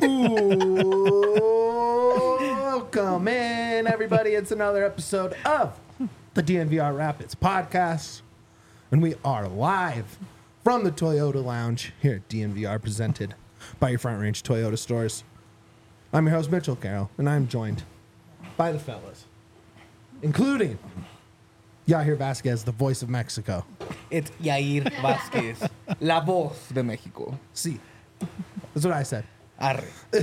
Welcome in, everybody. It's another episode of the DNVR Rapids podcast. And we are live from the Toyota Lounge here at DNVR, presented by your Front Range Toyota stores. I'm your host, Mitchell Carroll, and I'm joined by the fellas, including Yair Vasquez, the voice of Mexico. It's Yair Vasquez, la voz de México. See, that's what I said. Arre.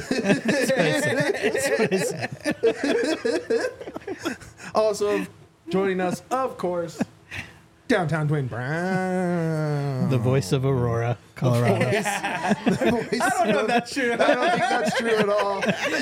Also joining us, of course, downtown Dwayne Brown. The voice of Aurora, Colorado. I don't know if that's true. I don't think that's true at all.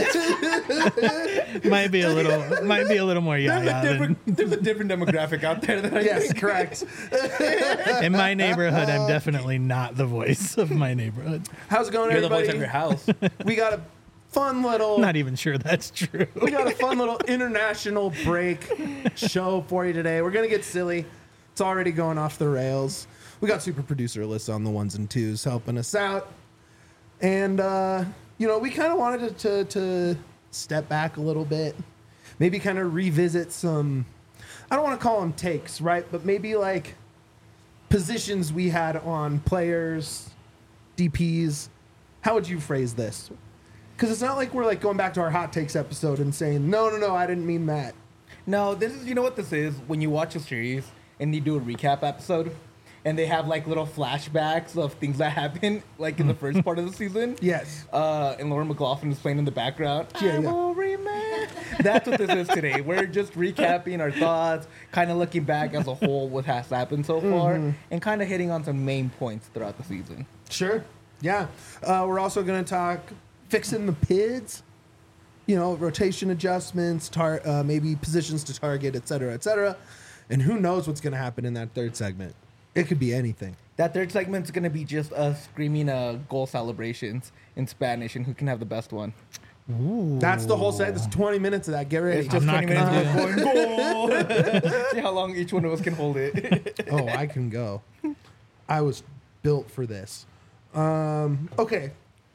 might be a little more yaya than There's a different demographic out there that I Yes, think. correct. in my neighborhood. I'm definitely not the voice of my neighborhood. How's it going, You're the everybody? voice of your house. We got a fun little... Not even sure that's true. We got a fun little international break show for you today. We're going to get silly. It's already going off the rails. We got super producer Alyssa on the ones and twos helping us out. And, we kind of wanted to step back a little bit. Maybe kind of revisit some, I don't want to call them takes, right? But maybe like positions we had on players, DPs. How would you phrase this? Because it's not like we're like going back to our hot takes episode and saying, no, I didn't mean that. No, this is, you know what this is? When you watch a series and you do a recap episode and they have like little flashbacks of things that happened like in the first part of the season. Yes. And Lauren McLaughlin is playing in the background. Yeah, I will remember. That's what this is today. We're just recapping our thoughts, kind of looking back as a whole what has happened so far, and kind of hitting on some main points throughout the season. Sure. Yeah. We're also going to talk fixing the PIDs, rotation adjustments, maybe positions to target, et cetera, et cetera. And who knows what's going to happen in that third segment. It could be anything. That third segment's going to be just us screaming goal celebrations in Spanish and who can have the best one. Ooh. That's the whole set. That's 20 minutes of that. Get ready. It's just I'm 20 not minutes gonna of us going goal. See how long each one of us can hold it. Oh, I can go. I was built for this. Okay.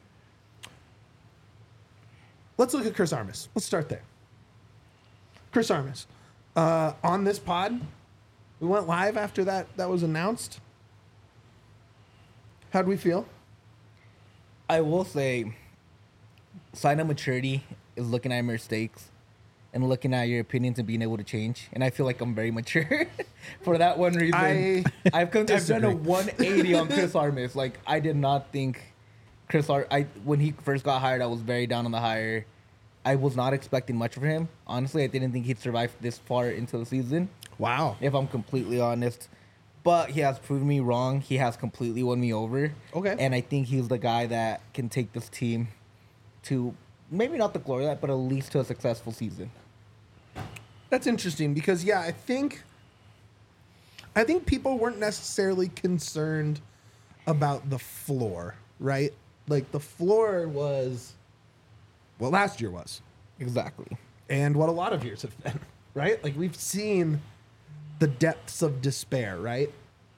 Let's look at Chris Armas. Let's start there. Chris Armas. On this pod, we went live after that was announced. How'd we feel? I will say, sign of maturity is looking at your mistakes and looking at your opinions and being able to change. And I feel like I'm very mature for that one reason. I've done a 180 on Chris Armas. Like, I did not think when he first got hired, I was very down on the hire. I was not expecting much from him. Honestly, I didn't think he'd survive this far into the season, Wow. if I'm completely honest. But he has proven me wrong. He has completely won me over. Okay. And I think he's the guy that can take this team to maybe not the glory of that, but at least to a successful season. That's interesting because, I think people weren't necessarily concerned about the floor, right? Like, the floor was what last year was. Exactly. And what a lot of years have been, right? Like, we've seen the depths of despair, right?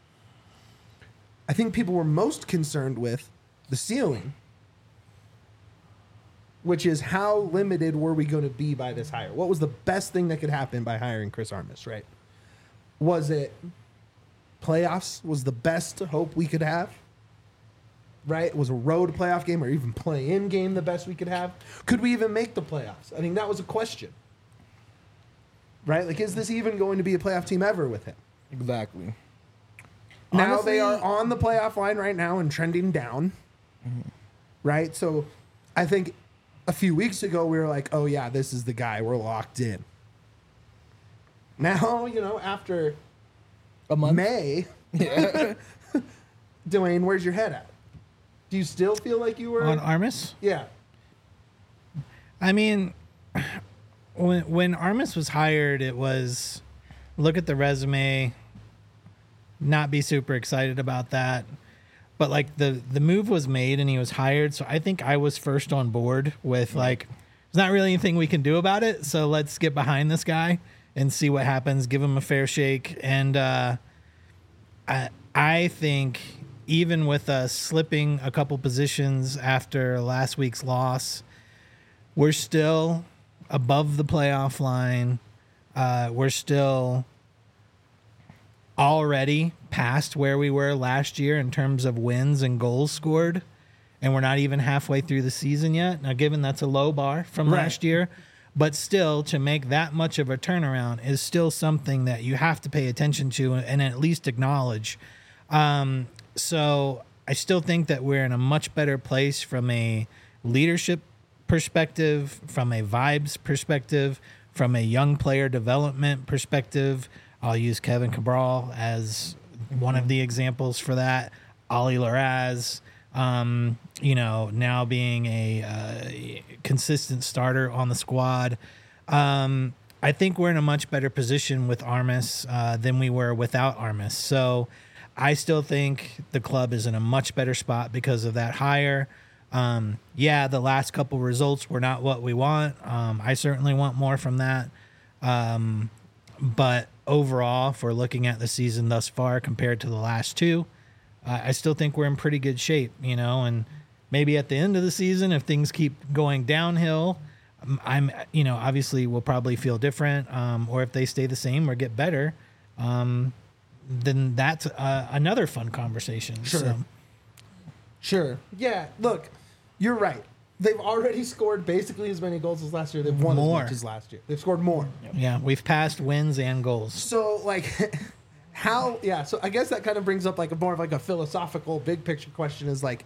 I think people were most concerned with the ceiling, which is how limited were we going to be by this hire? What was the best thing that could happen by hiring Chris Armas, right? Was it playoffs was the best hope we could have? Right? Was a road playoff game or even play-in game the best we could have? Could we even make the playoffs? I think that was a question. Right? Like, is this even going to be a playoff team ever with him? Exactly. Now Honestly, they are on the playoff line right now and trending down. Right? So I think a few weeks ago we were like, oh, yeah, this is the guy. We're locked in. Now, after a month. May, Yeah. Dwayne, where's your head at? Do you still feel like you were On Armas? Yeah. I mean, when Armas was hired, it was look at the resume, not be super excited about that. But like the move was made and he was hired, so I think I was first on board with like there's not really anything we can do about it, so let's get behind this guy and see what happens, give him a fair shake. And I think even with us slipping a couple positions after last week's loss, we're still above the playoff line. We're still already past where we were last year in terms of wins and goals scored. And we're not even halfway through the season yet. Now, given that's a low bar from last year, but still to make that much of a turnaround is still something that you have to pay attention to and at least acknowledge. So I still think that we're in a much better place from a leadership perspective, from a vibes perspective, from a young player development perspective. I'll use Kevin Cabral as one of the examples for that. Ali Larraz, now being a consistent starter on the squad. I think we're in a much better position with Armas than we were without Armas. So I still think the club is in a much better spot because of that hire. The last couple results were not what we want. I certainly want more from that. But overall, if we're looking at the season thus far compared to the last two, I still think we're in pretty good shape, and maybe at the end of the season, if things keep going downhill, obviously we'll probably feel different, or if they stay the same or get better, then that's another fun conversation. Sure. Sure. Yeah, look, you're right. They've already scored basically as many goals as last year. They've won More. as much as last year. They've scored more. Yeah, we've passed wins and goals. So, so I guess that kind of brings up like more of like a philosophical big picture question is like,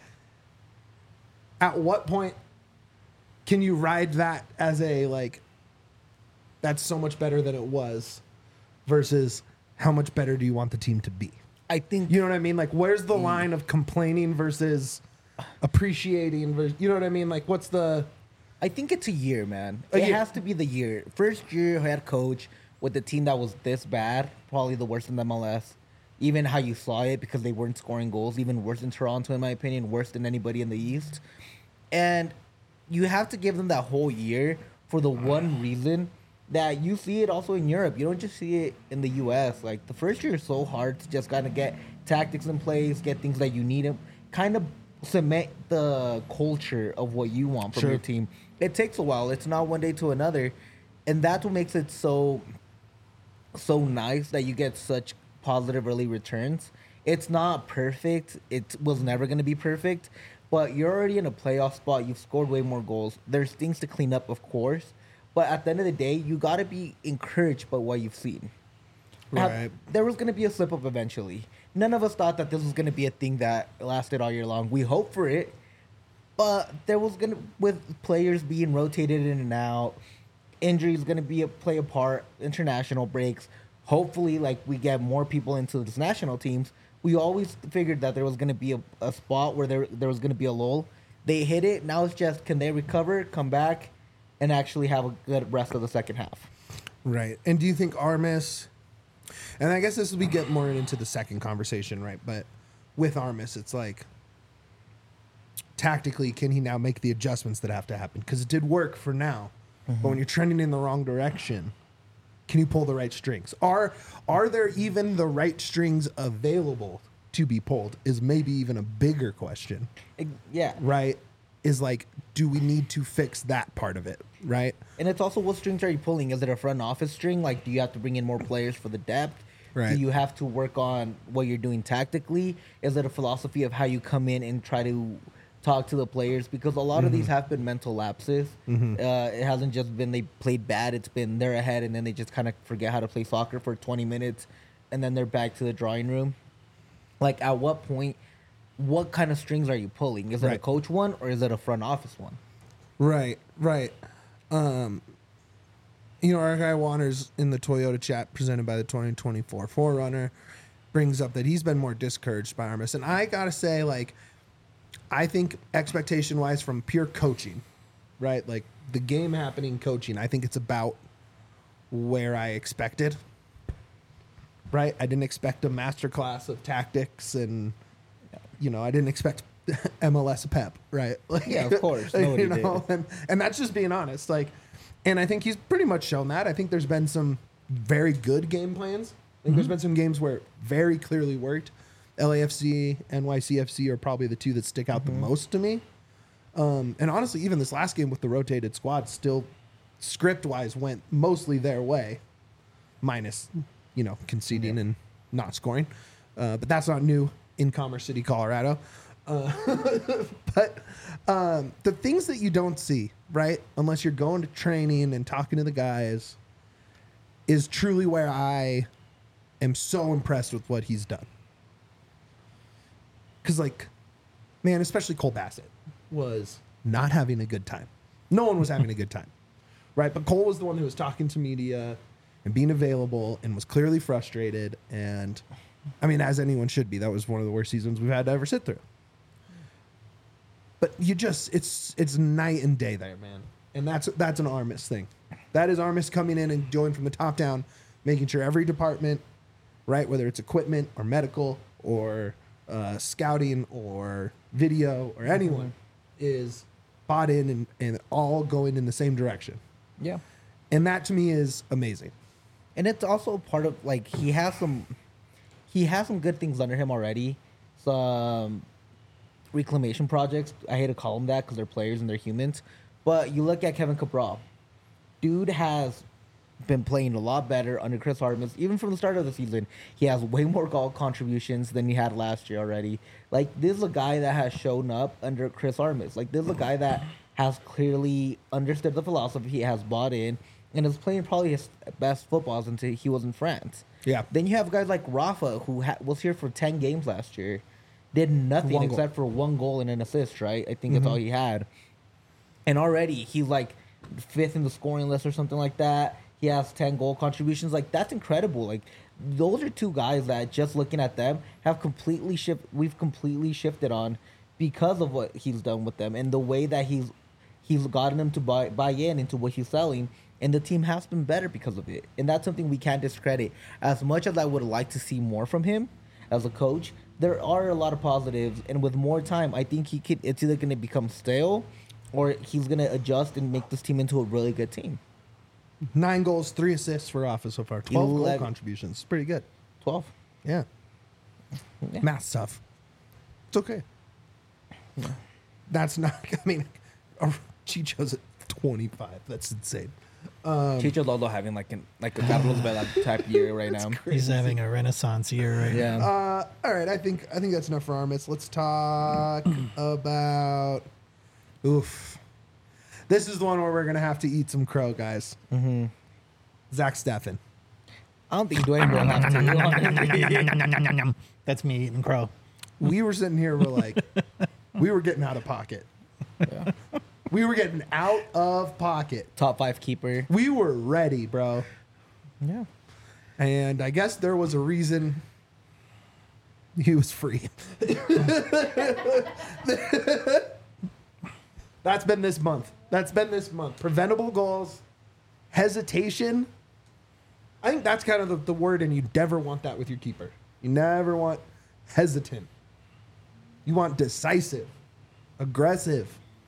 at what point can you ride that as a like, that's so much better than it was versus how much better do you want the team to be? I think You know what I mean? Like, where's the line of complaining versus appreciating? You know what I mean? Like, what's the... I think it's a year, man. A It year. has to be the year. First year head coach with a team that was this bad, probably the worst in the MLS. Even how you saw it because they weren't scoring goals, even worse than Toronto, in my opinion, worse than anybody in the East. And you have to give them that whole year for the one reason that you see it also in Europe. You don't just see it in the U.S. Like, the first year is so hard to just kind of get tactics in place, get things that you need, kind of cement the culture of what you want from your team. It takes a while. It's not one day to another. And that's what makes it so nice that you get such positive early returns. It's not perfect. It was never going to be perfect. But you're already in a playoff spot. You've scored way more goals. There's things to clean up, of course. But at the end of the day, you got to be encouraged by what you've seen. Right. There was going to be a slip-up eventually. None of us thought that this was going to be a thing that lasted all year long. We hoped for it. But there was going to, with players being rotated in and out, injuries going to play a part, international breaks. Hopefully, like, we get more people into these national teams. We always figured that there was going to be a spot where there was going to be a lull. They hit it. Now it's just, can they recover, come back, and actually have a good rest of the second half? Right. And do you think Armas, and I guess we get more into the second conversation, right? But with Armas, it's like, tactically, can he now make the adjustments that have to happen? Because it did work for now. But when you're trending in the wrong direction, can you pull the right strings? Are there even the right strings available to be pulled is maybe even a bigger question, Yeah. right? Is like, do we need to fix that part of it, right? And it's also, what strings are you pulling? Is it a front office string? Like, do you have to bring in more players for the depth? Right. Do you have to work on what you're doing tactically? Is it a philosophy of how you come in and try to talk to the players? Because a lot of these have been mental lapses. It hasn't just been they played bad. It's been they're ahead and then they just kind of forget how to play soccer for 20 minutes and then they're back to the drawing room. Like, at what point, what kind of strings are you pulling? Is it a Right. coach one or is it a front office one? Right. Our guy Waters in the Toyota chat presented by the 2024 4Runner brings up that he's been more discouraged by Armas. And I got to say, like, I think expectation-wise from pure coaching, right? Like, the game happening coaching, I think it's about where I expected, right? I didn't expect a masterclass of tactics and, I didn't expect MLS Pep, right? Like, Yeah, of course. Nobody did. And that's just being honest. Like, and I think he's pretty much shown that. I think there's been some very good game plans. I think there's been some games where it very clearly worked. LAFC, NYCFC are probably the two that stick out the most to me. And honestly, even this last game with the rotated squad still script-wise went mostly their way, minus, conceding and not scoring. But that's not new in Commerce City, Colorado. But the things that you don't see, right, unless you're going to training and talking to the guys, is truly where I am so impressed with what he's done. Because, man, especially Cole Bassett was not having a good time. No one was having a good time, right? But Cole was the one who was talking to media and being available and was clearly frustrated. And, I mean, as anyone should be, that was one of the worst seasons we've had to ever sit through. But it's night and day there, man. And that's an Armis thing. That is Armis coming in and going from the top down, making sure every department, right, whether it's equipment or medical or scouting or video or anyone, is bought in and all going in the same direction. Yeah. And that to me is amazing. And it's also part of, he has some good things under him already. Some reclamation projects. I hate to call them that because they're players and they're humans. But you look at Kevin Cabral. Dude has been playing a lot better under Chris Armis. Even from the start of the season, he has way more goal contributions than he had last year already. This is a guy that has shown up under Chris Armis. This is a guy that has clearly understood the philosophy, has bought in, and is playing probably his best football since he was in France. Yeah. Then you have guys like Rafa, who was here for 10 games last year. Did nothing except for 1 goal and an assist, right? I think that's all he had. And already he's 5th in the scoring list or something like that. He has 10 goal contributions. That's incredible. Those are two guys that, just looking at them, we've completely shifted on because of what he's done with them and the way that he's gotten them to buy in into what he's selling. And the team has been better because of it. And that's something we can't discredit. As much as I would like to see more from him as a coach, there are a lot of positives. And with more time, I think it's either going to become stale or he's going to adjust and make this team into a really good team. 9 goals, 3 assists for Rafa so far. 12 goal 11. contributions. Pretty good. 12. Yeah. Yeah. Math's tough. It's okay. Yeah. That's not, Chicho's at 25. That's insane. Chicho's also having a Carlos Vela type year right now. He's having a renaissance year right now. Yeah. All right, I think that's enough for Armis. Let's talk about. Oof. This is the one where we're gonna have to eat some crow, guys. Mm-hmm. Zach Steffen. I don't think Dwayne will have to. That's me eating crow. We were sitting here, we were getting out of pocket. Yeah. We were getting out of pocket. Top 5 keeper. We were ready, bro. Yeah. And I guess there was a reason he was free. That's been this month. Preventable goals, hesitation. I think that's kind of the word, and you never want that with your keeper. You never want hesitant. You want decisive, aggressive.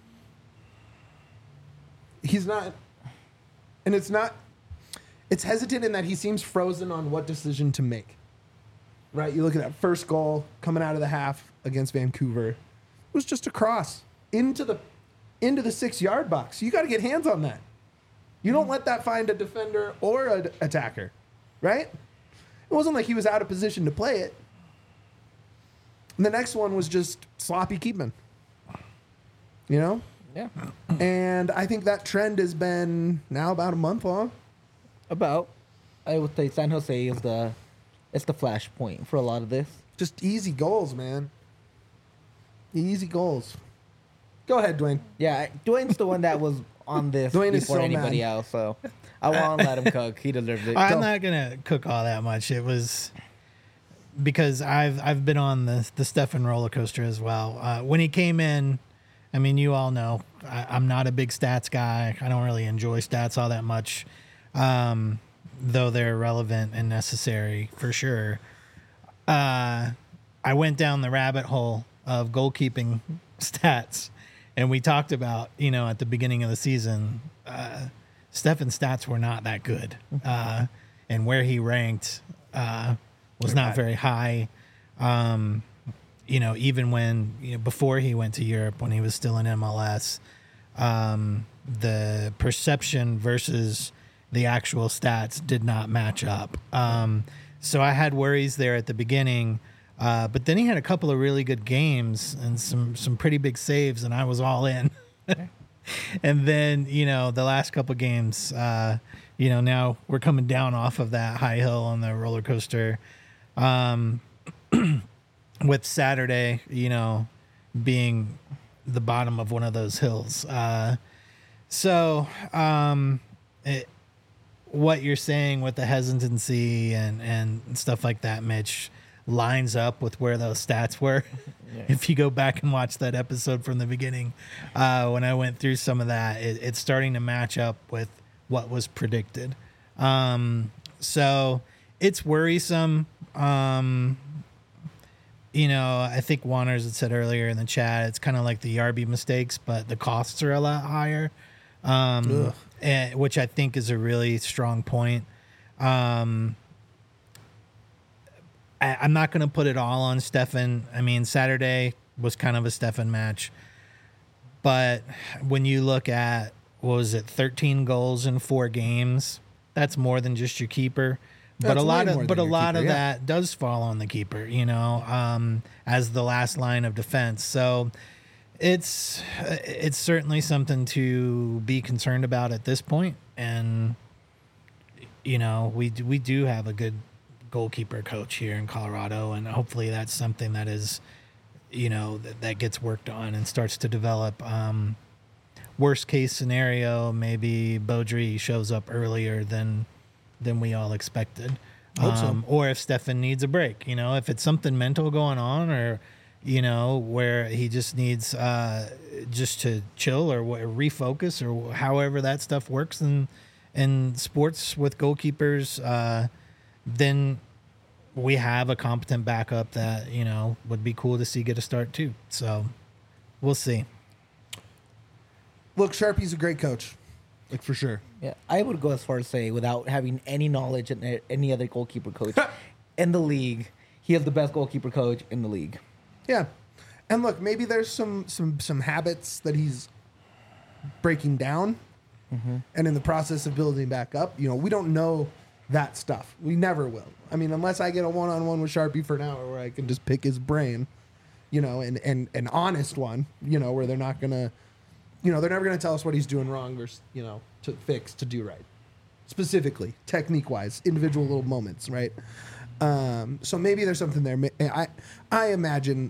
He's not, and it's hesitant in that he seems frozen on what decision to make. Right? You look at that first goal coming out of the half against Vancouver. It was just a cross into the 6-yard box. You got to get hands on that. You don't let that find a defender or an attacker, right? It wasn't like he was out of position to play it. And the next one was just sloppy keeping. Yeah. And I think that trend has been now about a month long. I would say San Jose is the flashpoint for a lot of this. Just easy goals, man. Easy goals. Go ahead, Dwayne. Yeah, Dwayne's the one that was on this Dwayne is before so anybody mad. else, so I won't let him cook. He deserves it. I'm not gonna cook all that much. It was because I've been on the Steffen roller coaster as well. When he came in, I mean, you all know I'm not a big stats guy. I don't really enjoy stats all that much, though they're relevant and necessary for sure. I went down the rabbit hole of goalkeeping stats. And we talked about, at the beginning of the season, Steffen's stats were not that good. And where he ranked was not very high. Even when before he went to Europe, when he was still in MLS, the perception versus the actual stats did not match up. So I had worries there at the beginning, but then he had a couple of really good games and some pretty big saves, and I was all in. And then the last couple of games, now we're coming down off of that high hill on the roller coaster. With Saturday, being the bottom of one of those hills. What you're saying with the hesitancy and stuff like that, Mitch, lines up with where those stats were. Yeah. If you go back and watch that episode from the beginning, when I went through some of that, it's starting to match up with what was predicted. So it's worrisome. I think Wanners had said earlier in the chat, it's kind of like the Yarby mistakes, but the costs are a lot higher, which I think is a really strong point. I'm not going to put it all on Stefan. I mean, Saturday was kind of a Stefan match, but when you look at, 13 goals in 4 games, that's more than just your keeper. But a lot of that does fall on the keeper, as the last line of defense. So it's certainly something to be concerned about at this point. And we do have a good goalkeeper coach here in Colorado, and hopefully that's something that is that gets worked on and starts to develop. Worst case scenario, maybe Beaudry shows up earlier than we all expected. Or if Stefan needs a break, if it's something mental going on, or where he just needs just to chill or refocus, or however that stuff works in sports with goalkeepers, then we have a competent backup that would be cool to see get a start too. So we'll see. Look, Sharpie's a great coach. Like, for sure. Yeah, I would go as far as say, without having any knowledge of any other goalkeeper coach in the league, he is the best goalkeeper coach in the league. Yeah. And look, maybe there's some habits that he's breaking down, and in the process of building back up. We don't know that stuff. We never will. I mean, unless I get a one-on-one with Sharpie for an hour where I can just pick his brain, and an honest one, where they're not going to... they're never going to tell us what he's doing wrong versus, to fix, to do right. Specifically, technique-wise, individual little moments, right? So maybe there's something there. I imagine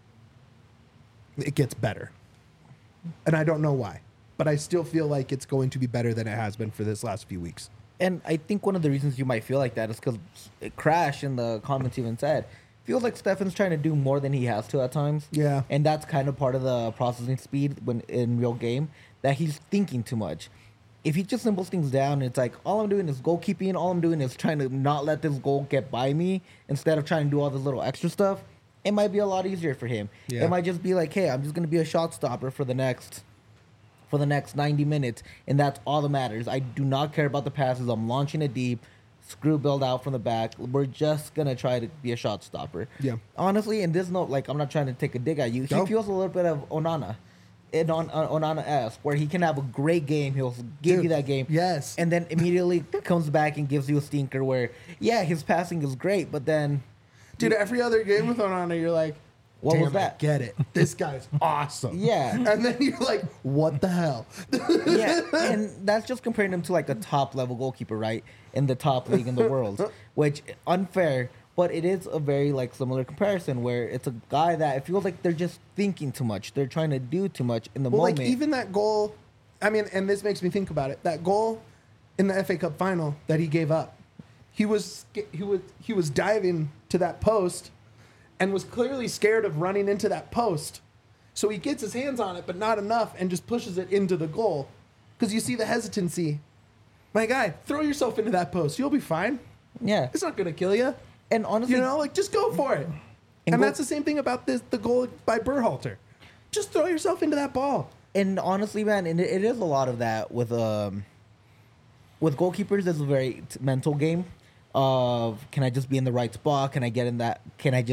it gets better. And I don't know why. But I still feel like it's going to be better than it has been for this last few weeks. And I think one of the reasons you might feel like that is because Crash in the comments even said, feels like Stefan's trying to do more than he has to at times. Yeah. And that's kind of part of the processing speed when in real game, that he's thinking too much. If he just simples things down, it's like, all I'm doing is goalkeeping, all I'm doing is trying to not let this goal get by me instead of trying to do all this little extra stuff, it might be a lot easier for him. Yeah. It might just be like, hey, I'm just going to be a shot stopper for the next 90 minutes, and that's all that matters. I do not care about the passes. I'm launching it deep. Screw build out from the back. We're just going to try to be a shot stopper. Yeah. Honestly, in this note, I'm not trying to take a dig at you. He feels a little bit of Onana. Onana-esque, where he can have a great game. He'll give you that game. Yes. And then immediately comes back and gives you a stinker where, his passing is great, but then... Dude, every other game with Onana, you're like, what was that? I get it. This guy's awesome. Yeah. And then you're like, what the hell? Yeah, and that's just comparing him to a top-level goalkeeper, right? In the top league in the world, which, unfair, but it is a very, similar comparison where it's a guy that it feels like they're just thinking too much. They're trying to do too much in the moment. Even that goal, I mean, and this makes me think about it, that goal in the FA Cup final that he gave up, he was diving to that post and was clearly scared of running into that post. So he gets his hands on it, but not enough, and just pushes it into the goal. Because you see the hesitancy. My guy, throw yourself into that post. You'll be fine. Yeah. It's not going to kill you. And honestly... just go for it. And that's the same thing about the goal by Berhalter. Just throw yourself into that ball. And honestly, man, and it is a lot of that with goalkeepers. It's a very mental game of, can I just be in the right spot? Can I get in that? Can I just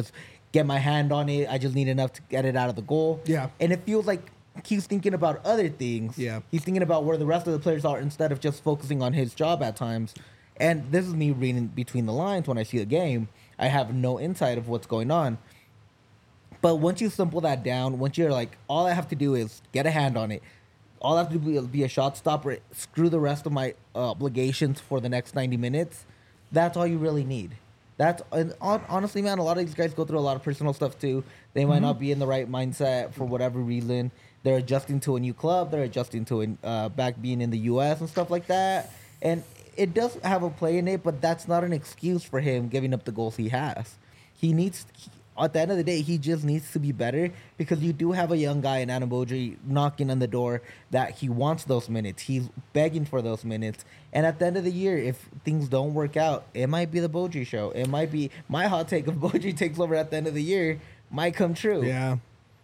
get my hand on it. I just need enough to get it out of the goal. Yeah. And it feels like he's thinking about other things. Yeah. He's thinking about where the rest of the players are instead of just focusing on his job at times. And this is me reading between the lines when I see the game. I have no insight of what's going on. But once you simple that down, once you're like, all I have to do is get a hand on it. All I have to do is be a shot stopper. Screw the rest of my obligations for the next 90 minutes. That's all you really need. And honestly, man, a lot of these guys go through a lot of personal stuff too. They might not be in the right mindset for whatever reason. They're adjusting to a new club. They're adjusting to back being in the U.S. and stuff like that. And it does have a play in it, but that's not an excuse for him giving up the goals he has. At the end of the day, he just needs to be better because you do have a young guy in Adam Beaudry knocking on the door that he wants those minutes. He's begging for those minutes. And at the end of the year, if things don't work out, it might be the Beaudry show. It might be my hot take of Beaudry takes over at the end of the year might come true. Yeah.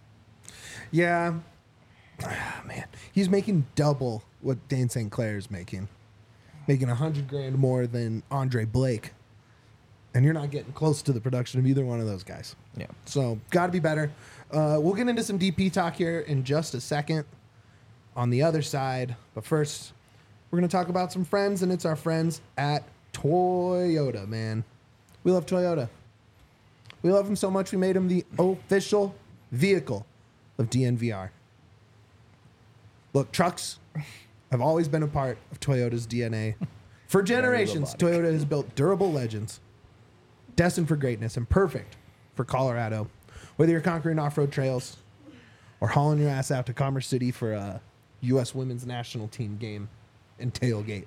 Yeah. Ah, man, he's making double what Dane St. Clair is making $100,000 more than Andre Blake. And you're not getting close to the production of either one of those guys. Yeah. So, got to be better. We'll get into some DP talk here in just a second on the other side. But first, we're going to talk about some friends, and it's our friends at Toyota, man. We love Toyota. We love them so much, we made them the official vehicle of DNVR. Look, trucks have always been a part of Toyota's DNA. For generations, Toyota has built durable legends destined for greatness and perfect for Colorado. Whether you're conquering off-road trails or hauling your ass out to Commerce City for a U.S. women's national team game and tailgate,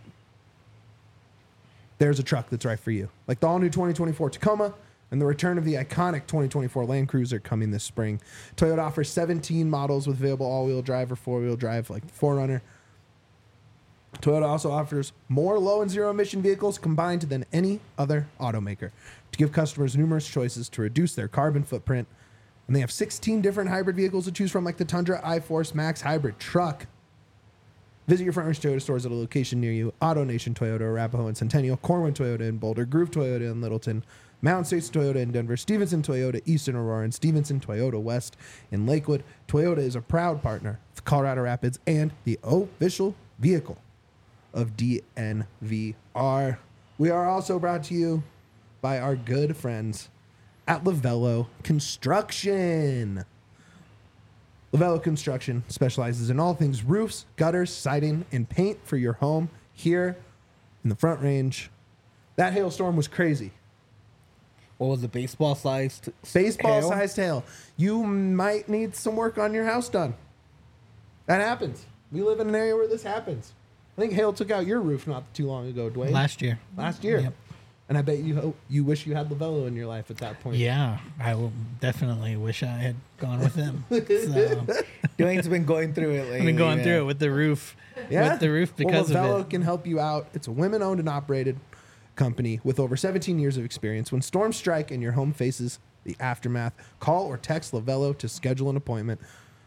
there's a truck that's right for you. Like the all-new 2024 Tacoma and the return of the iconic 2024 Land Cruiser coming this spring. Toyota offers 17 models with available all-wheel drive or four-wheel drive like the 4Runner. Toyota also offers more low and zero emission vehicles combined than any other automaker to give customers numerous choices to reduce their carbon footprint. And they have 16 different hybrid vehicles to choose from, like the Tundra iForce Max hybrid truck. Visit your Front Range Toyota stores at a location near you. AutoNation Toyota, Arapahoe and Centennial, Corwin Toyota in Boulder, Groove Toyota in Littleton, Mountain States Toyota in Denver, Stevenson Toyota East in Aurora, and Stevenson Toyota West in Lakewood. Toyota is a proud partner of Colorado Rapids and the official vehicle of DNVR. We are also brought to you by our good friends at Lavello Construction. Lavello Construction specializes in all things roofs, gutters, siding, and paint for your home here in the Front Range. That hailstorm was crazy. What was the baseball-sized Baseball-sized hail. You might need some work on your house done. That happens. We live in an area where this happens. I think hail took out your roof not too long ago, Dwayne. Last year. Yep. And I bet you wish you had Lavello in your life at that point. Yeah, I will definitely wish I had gone with them. So, Dwayne's been going through it lately. I've been going through it with the roof. Yeah. With the roof because Lavello of it. can help you out. It's a women-owned and operated company with over 17 years of experience. When storms strike and your home faces the aftermath, call or text Lavello to schedule an appointment.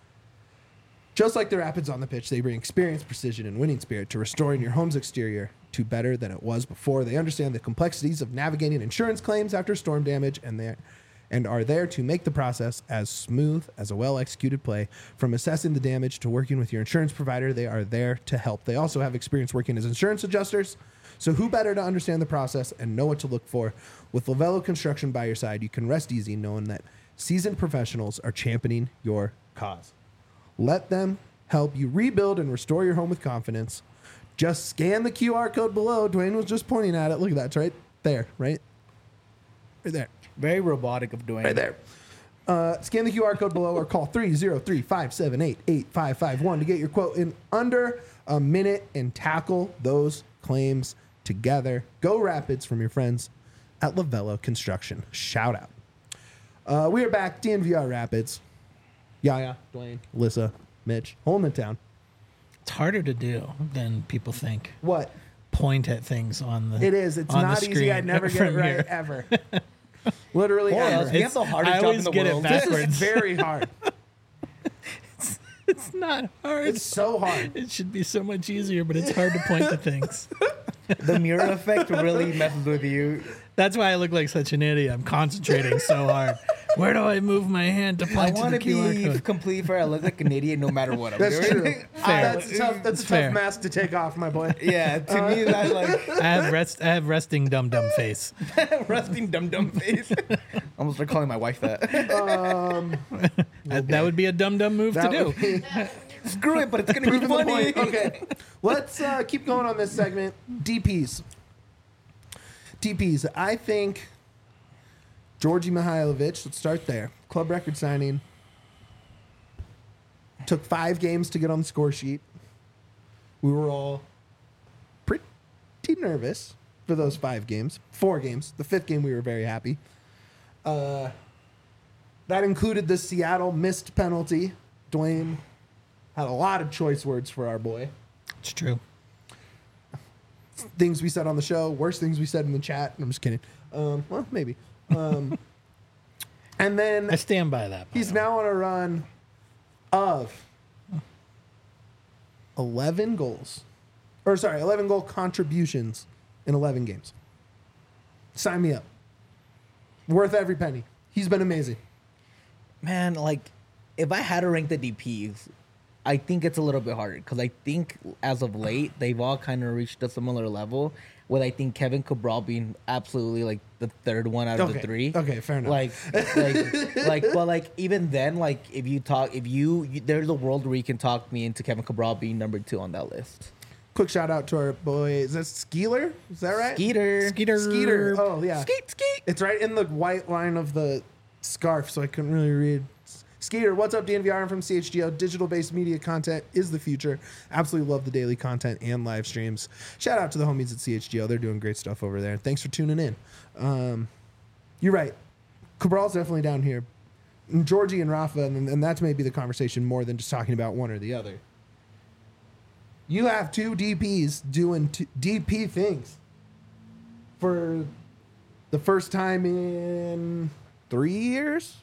Just like the Rapids on the pitch, they bring experience, precision, and winning spirit to restoring your home's exterior to better than it was before. They understand the complexities of navigating insurance claims after storm damage and are there to make the process as smooth as a well-executed play. From assessing the damage to working with your insurance provider, they are there to help. They also have experience working as insurance adjusters. So who better to understand the process and know what to look for? With Lavello Construction by your side, you can rest easy knowing that seasoned professionals are championing your cause. Let them help you rebuild and restore your home with confidence. Just scan the QR code below. Dwayne was just pointing at it. Look at that. It's right there, right? Right there. Very robotic of Dwayne. Right there. Scan the QR code below or call 303-578-8551 to get your quote in under a minute and tackle those claims together. Go Rapids from your friends at Lavello Construction. Shout out. We are back. DNVR Rapids. Yaya, Dwayne, Alyssa, Mitch, holding it down. It's harder to do than people think. What? Point at things on the It is. It's on the not easy. screen I never get it from right, here. ever. Literally Boy, ever. we have the hardest I job in always the get it world. back. This is backwards. very hard. It's not hard. It's so hard. It should be so much easier, but it's hard to point to things. The mirror effect really messes with you. That's why I look like such an idiot. I'm concentrating so hard. Where do I move my hand to I point to want the to QR be code? completely fair. I look like an idiot no matter what I'm That's doing. true. That's a Fair. tough mask to take off, my boy. Yeah, to me that like I have resting dum dum face. rusting dum dum face. I almost start calling my wife that. That would be a dum dum move to That do. would be- Screw it, but it's gonna be Proving the funny. point. Okay, let's keep going on this segment. DPs. I think Georgi Mihailovic, let's start there. Club record signing. Took 5 games to get on the score sheet. We were all pretty nervous for those 5 games. 4 games. The 5th game, we were very happy. That included the Seattle missed penalty. Dwayne had a lot of choice words for our boy. It's true. Things we said on the show, worse things we said in the chat. I'm just kidding. Well, maybe. And then I stand by that. by he's the way. now on a run of 11 goals. 11 goal contributions in 11 games. Sign me up. Worth every penny. He's been amazing. Man, like if I had to rank the DPs, I think it's a little bit harder because I think as of late they've all kind of reached a similar level. With I think Kevin Cabral being absolutely like the 3rd one out of the 3. Okay, fair enough. But like even then, like if you there's a world where you can talk me into Kevin Cabral being number 2 on that list. Quick shout out to our boy. Is that Skeeler? Is that right? Skeeter. Skeeter. Oh, yeah. Skeet. It's right in the white line of the scarf, so I couldn't really read. Skeeter, what's up, DNVR? I'm from CHGO. Digital-based media content is the future. Absolutely love the daily content and live streams. Shout out to the homies at CHGO. They're doing great stuff over there. Thanks for tuning in. You're right. Cabral's definitely down here. And Georgie and Rafa, and that's maybe the conversation more than just talking about one or the other. You have 2 DPs doing DP things for the first time in 3 years.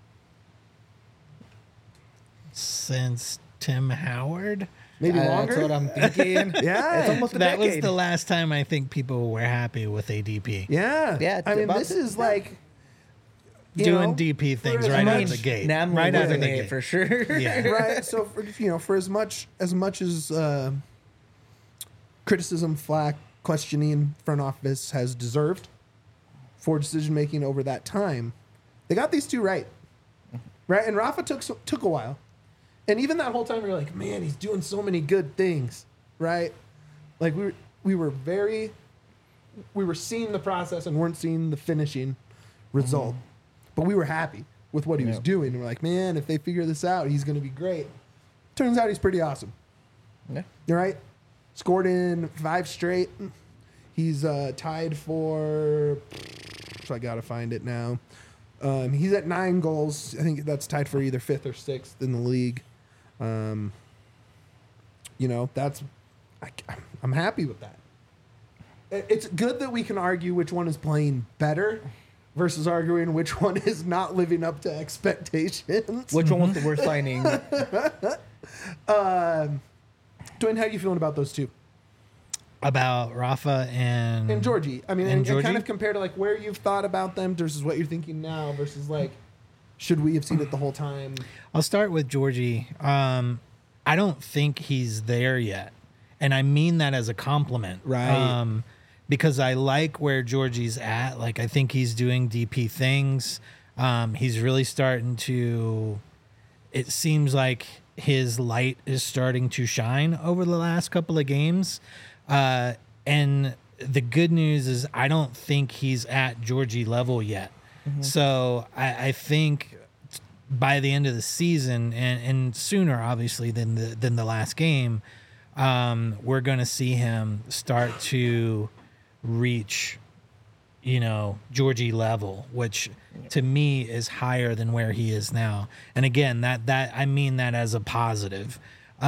Since Tim Howard. Maybe longer. That's what I'm thinking. Yeah. It's almost a That was decade. the last time I think people were happy with ADP. Yeah. Yeah, I mean, about this the- is like Doing DP things as right out much- of the gate. Nam Right out of the wasn't it gate. for sure. Yeah. right. So for as much as criticism, flack, questioning front office has deserved for decision making over that time, they got these 2 right. Right, and Rafa took a while, and even that whole time we were like, man, he's doing so many good things, right? Like we were seeing the process and weren't seeing the finishing result, but we were happy with what he was doing. And we're like, man, if they figure this out, he's going to be great. Turns out he's pretty awesome. Yeah. All right, scored in 5 straight. He's tied for. So I gotta find it now. He's at 9 goals. I think that's tied for either 5th or 6th in the league. I'm happy with that. It's good that we can argue which one is playing better versus arguing which one is not living up to expectations. Which one was the worst signing? Dwayne, how are you feeling about those 2? About Rafa and Georgie. I mean, And and kind Georgie? of compare to like where you've thought about them versus what you're thinking now versus like, should we have seen it the whole time? I'll start with Georgie. I don't think he's there yet. And I mean that as a compliment. Right. Because I like where Georgie's at. Like, I think he's doing DP things. He's really starting to, it seems like his light is starting to shine over the last couple of games. And the good news is I don't think he's at Georgie level yet. So I think by the end of the season and sooner, obviously, than the last game, we're going to see him start to reach, Georgie level, which to me is higher than where he is now. And again, that I mean that as a positive.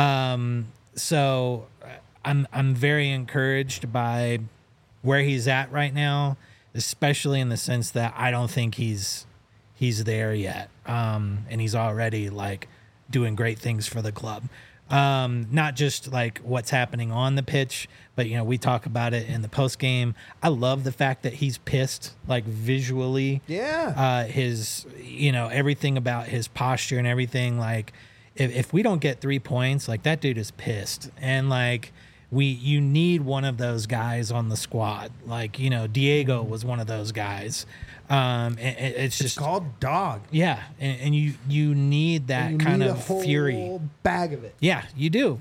So I'm very encouraged by where he's at right now, especially in the sense that I don't think he's there yet. And he's already like doing great things for the club. Not just like what's happening on the pitch, but we talk about it in the post game. I love the fact that he's pissed, like visually. Yeah. His, everything about his posture and everything. Like, if we don't get 3 points, like that dude is pissed, and like you need one of those guys on the squad. Like Diego was one of those guys. It's just called dog. Yeah, and you need that kind of fury. Whole bag of it. Yeah, you do.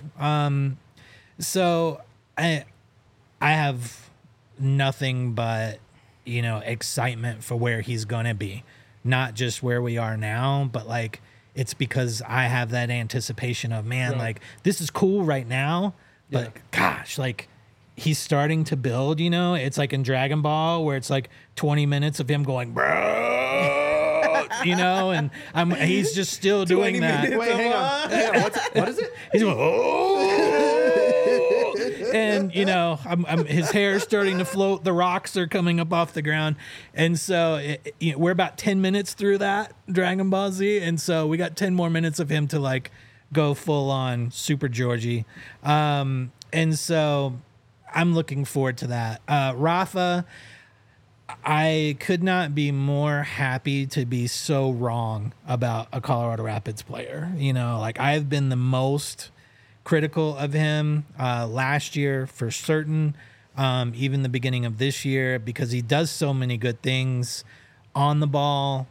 So I have nothing but excitement for where he's gonna be, not just where we are now, but like it's because I have that anticipation of like this is cool right now, but gosh, like he's starting to build. It's like in Dragon Ball where it's like 20 minutes of him going, bro, and he's just still doing that. Wait, hang on. What is it? He's going, oh, and his hair's starting to float. The rocks are coming up off the ground, and so we're about 10 minutes through that Dragon Ball Z, and so we got 10 more minutes of him to like go full on Super Georgie, and so I'm looking forward to that. Rafa, I could not be more happy to be so wrong about a Colorado Rapids player. Like I've been the most critical of him last year for certain, even the beginning of this year, because he does so many good things on the ball,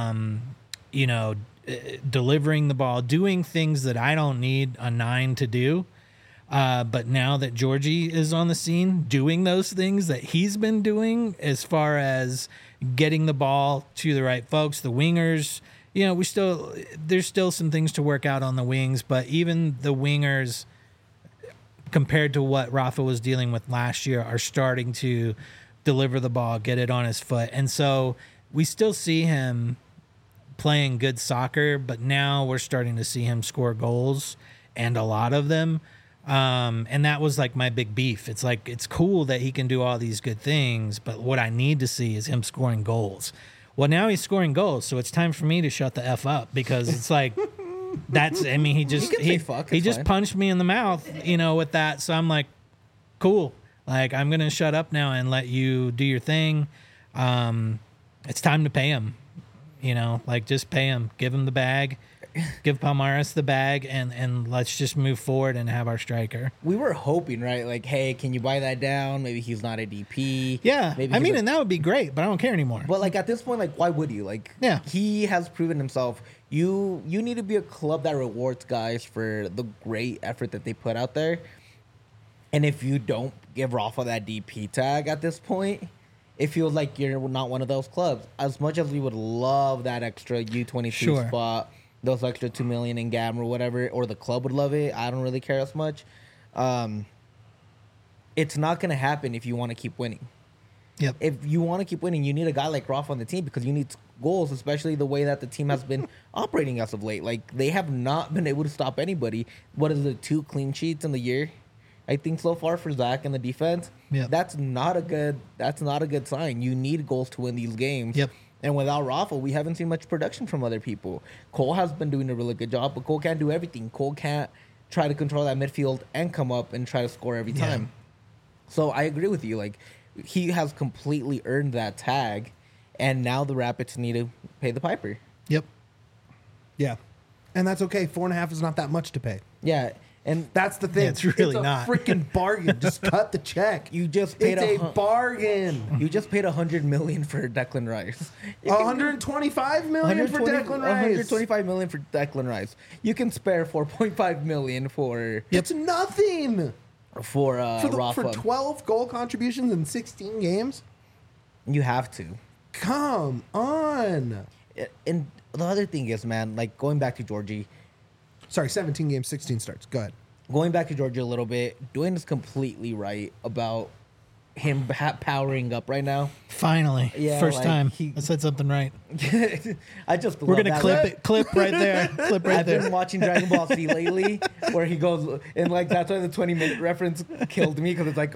delivering the ball, doing things that I don't need a 9 to do. But now that Georgie is on the scene, doing those things that he's been doing as far as getting the ball to the right folks, the wingers, there's still some things to work out on the wings, but even the wingers, compared to what Rafa was dealing with last year, are starting to deliver the ball, get it on his foot. And so we still see him playing good soccer, but now we're starting to see him score goals, and a lot of them. And that was like my big beef. It's like, it's cool that he can do all these good things, but what I need to see is him scoring goals. Well, now he's scoring goals, so it's time for me to shut the F up, because it's like, he just punched me in the mouth, with that. So I'm like, cool. Like, I'm going to shut up now and let you do your thing. It's time to pay him, like just pay him, give him the bag. Give Palmares the bag, and let's just move forward and have our striker. We were hoping, right? Like, hey, can you buy that down? Maybe he's not a DP. Yeah, and that would be great, but I don't care anymore. But like at this point, like, why would you? Like, he has proven himself. You need to be a club that rewards guys for the great effort that they put out there. And if you don't give Rafa that DP tag at this point, it feels like you're not one of those clubs. As much as we would love that extra U22 spot, those extra $2 million in GAM or whatever, or the club would love it. I don't really care as much. It's not going to happen if you want to keep winning. Yep. If you want to keep winning, you need a guy like Rafa on the team, because you need goals, especially the way that the team has been operating as of late. Like, they have not been able to stop anybody. What is it, 2 clean sheets in the year, I think, so far for Zach and the defense? Yep. That's not a good sign. You need goals to win these games. Yep. And without Rafa, we haven't seen much production from other people. Cole has been doing a really good job, but Cole can't do everything. Cole can't try to control that midfield and come up and try to score every time. So I agree with you. Like, he has completely earned that tag, and now the Rapids need to pay the piper. Yep. Yeah. And that's okay. 4.5 is not that much to pay. Yeah. And that's the thing. Yeah, it's really not. A freaking bargain. Just cut the check. You just paid a bargain. You just paid $100 million for Declan Rice. $125 million for Declan Rice. $125 million for Declan Rice. You can spare $4.5 million for. It's nothing. For Rafa. For 12 goal contributions in 16 games. You have to. Come on. And the other thing is, man, like, going back to Georgie. Sorry, 17 games, 16 starts. Go ahead. Going back to Georgia a little bit, Dwayne is completely right about him powering up right now. Finally. Yeah, First like, time. I said something right. We're going to clip right there. Clip right there. I've been watching Dragon Ball Z lately, where he goes, and like, that's why the 20-minute reference killed me, because it's like,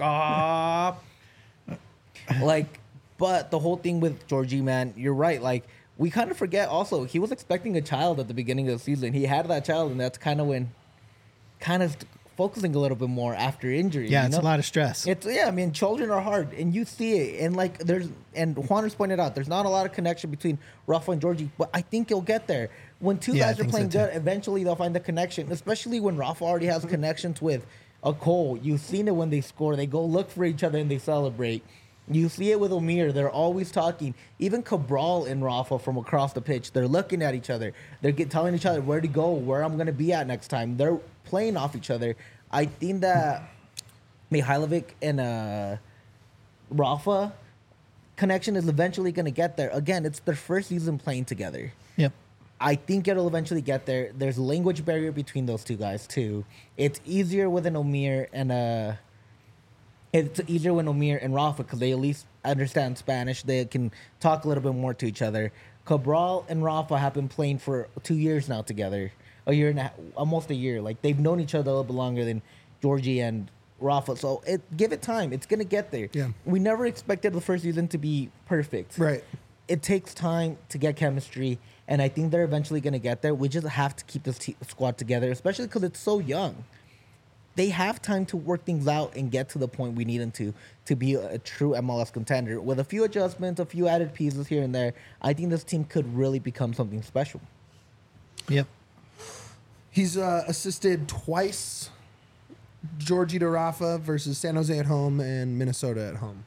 like, but the whole thing with Georgie, man, you're right. Like, we kind of forget also, he was expecting a child at the beginning of the season. He had that child, and that's kind of when kind of focusing a little bit more after injury. Yeah, you it's know? a lot of stress. I mean, children are hard, and you see it, and like Juan has pointed out, there's not a lot of connection between Rafa and Georgie, but I think you'll get there. When two Yeah, I guys are think so playing too. good, eventually they'll find the connection, especially when Rafa already has connections with a Cole. You've seen it when they score, they go look for each other and they celebrate. You see it with Omir. They're always talking. Even Cabral and Rafa from across the pitch, they're looking at each other. They're telling each other where to go, where I'm going to be at next time. They're playing off each other. I think that Mihailovic and Rafa connection is eventually going to get there. Again, it's their first season playing together. Yep. I think it'll eventually get there. There's a language barrier between those two guys too. It's easier with an Omir and it's easier when Omir and Rafa because they at least understand Spanish. They can talk a little bit more to each other. Cabral and Rafa have been playing for 2 years now together. A year and a half, almost a year. Like they've known each other a little bit longer than Georgie and Rafa. So give it time. It's gonna get there. Yeah. We never expected the first season to be perfect. Right. It takes time to get chemistry, and I think they're eventually gonna get there. We just have to keep this squad together, especially because it's so young. They have time to work things out and get to the point we need them to be a true MLS contender. With a few adjustments, a few added pieces here and there, I think this team could really become something special. Yep. He's assisted twice, Georgie to Rafa versus San Jose at home and Minnesota at home.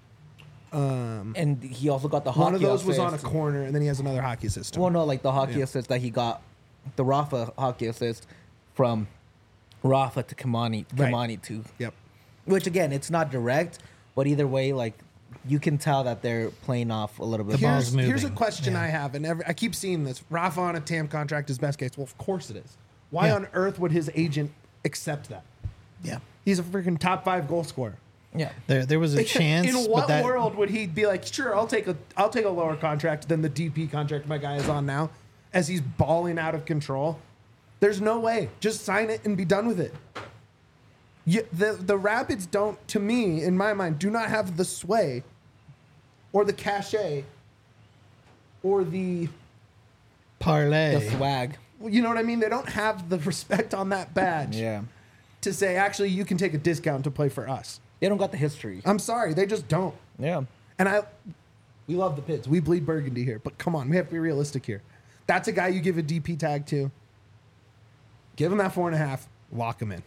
And he also got the hockey One of those was on a assist. corner, and then he has another hockey assist. Well, no, like the hockey Yeah. assist that he got, the Rafa hockey assist from Rafa to Kimani to. Yep. Which again, it's not direct, but either way, like you can tell that they're playing off a little bit. The ball's Here's a moving. question Yeah. I have, and I keep seeing this. Rafa on a TAM contract is best case. Well, of course it is. Why Yeah. on earth would his agent accept that? Yeah. He's a freaking top 5 goal scorer. Yeah. There was a chance. In but what that, world would he be like, sure, I'll take a lower contract than the DP contract my guy is on now, as he's balling out of control? There's no way. Just sign it and be done with it. The Rapids don't, to me, in my mind, do not have the sway or the cachet or the, parlay? The swag. you know what I mean? They don't have the respect on that badge Yeah. to say, actually, you can take a discount to play for us. They don't got the history. I'm sorry, they just don't. Yeah. And we love the Pids. We bleed burgundy here. But come on, we have to be realistic here. That's a guy you give a DP tag to. Give him that 4.5. Lock him in.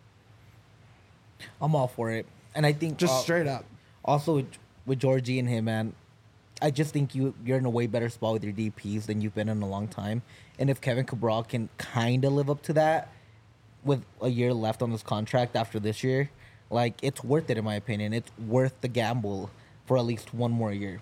I'm all for it. And I think Just straight up. also with Georgie and him, man, I just think you're in a way better spot with your DPs than you've been in a long time. And if Kevin Cabral can kind of live up to that with a year left on this contract after this year, like it's worth it in my opinion. It's worth the gamble for at least one more year.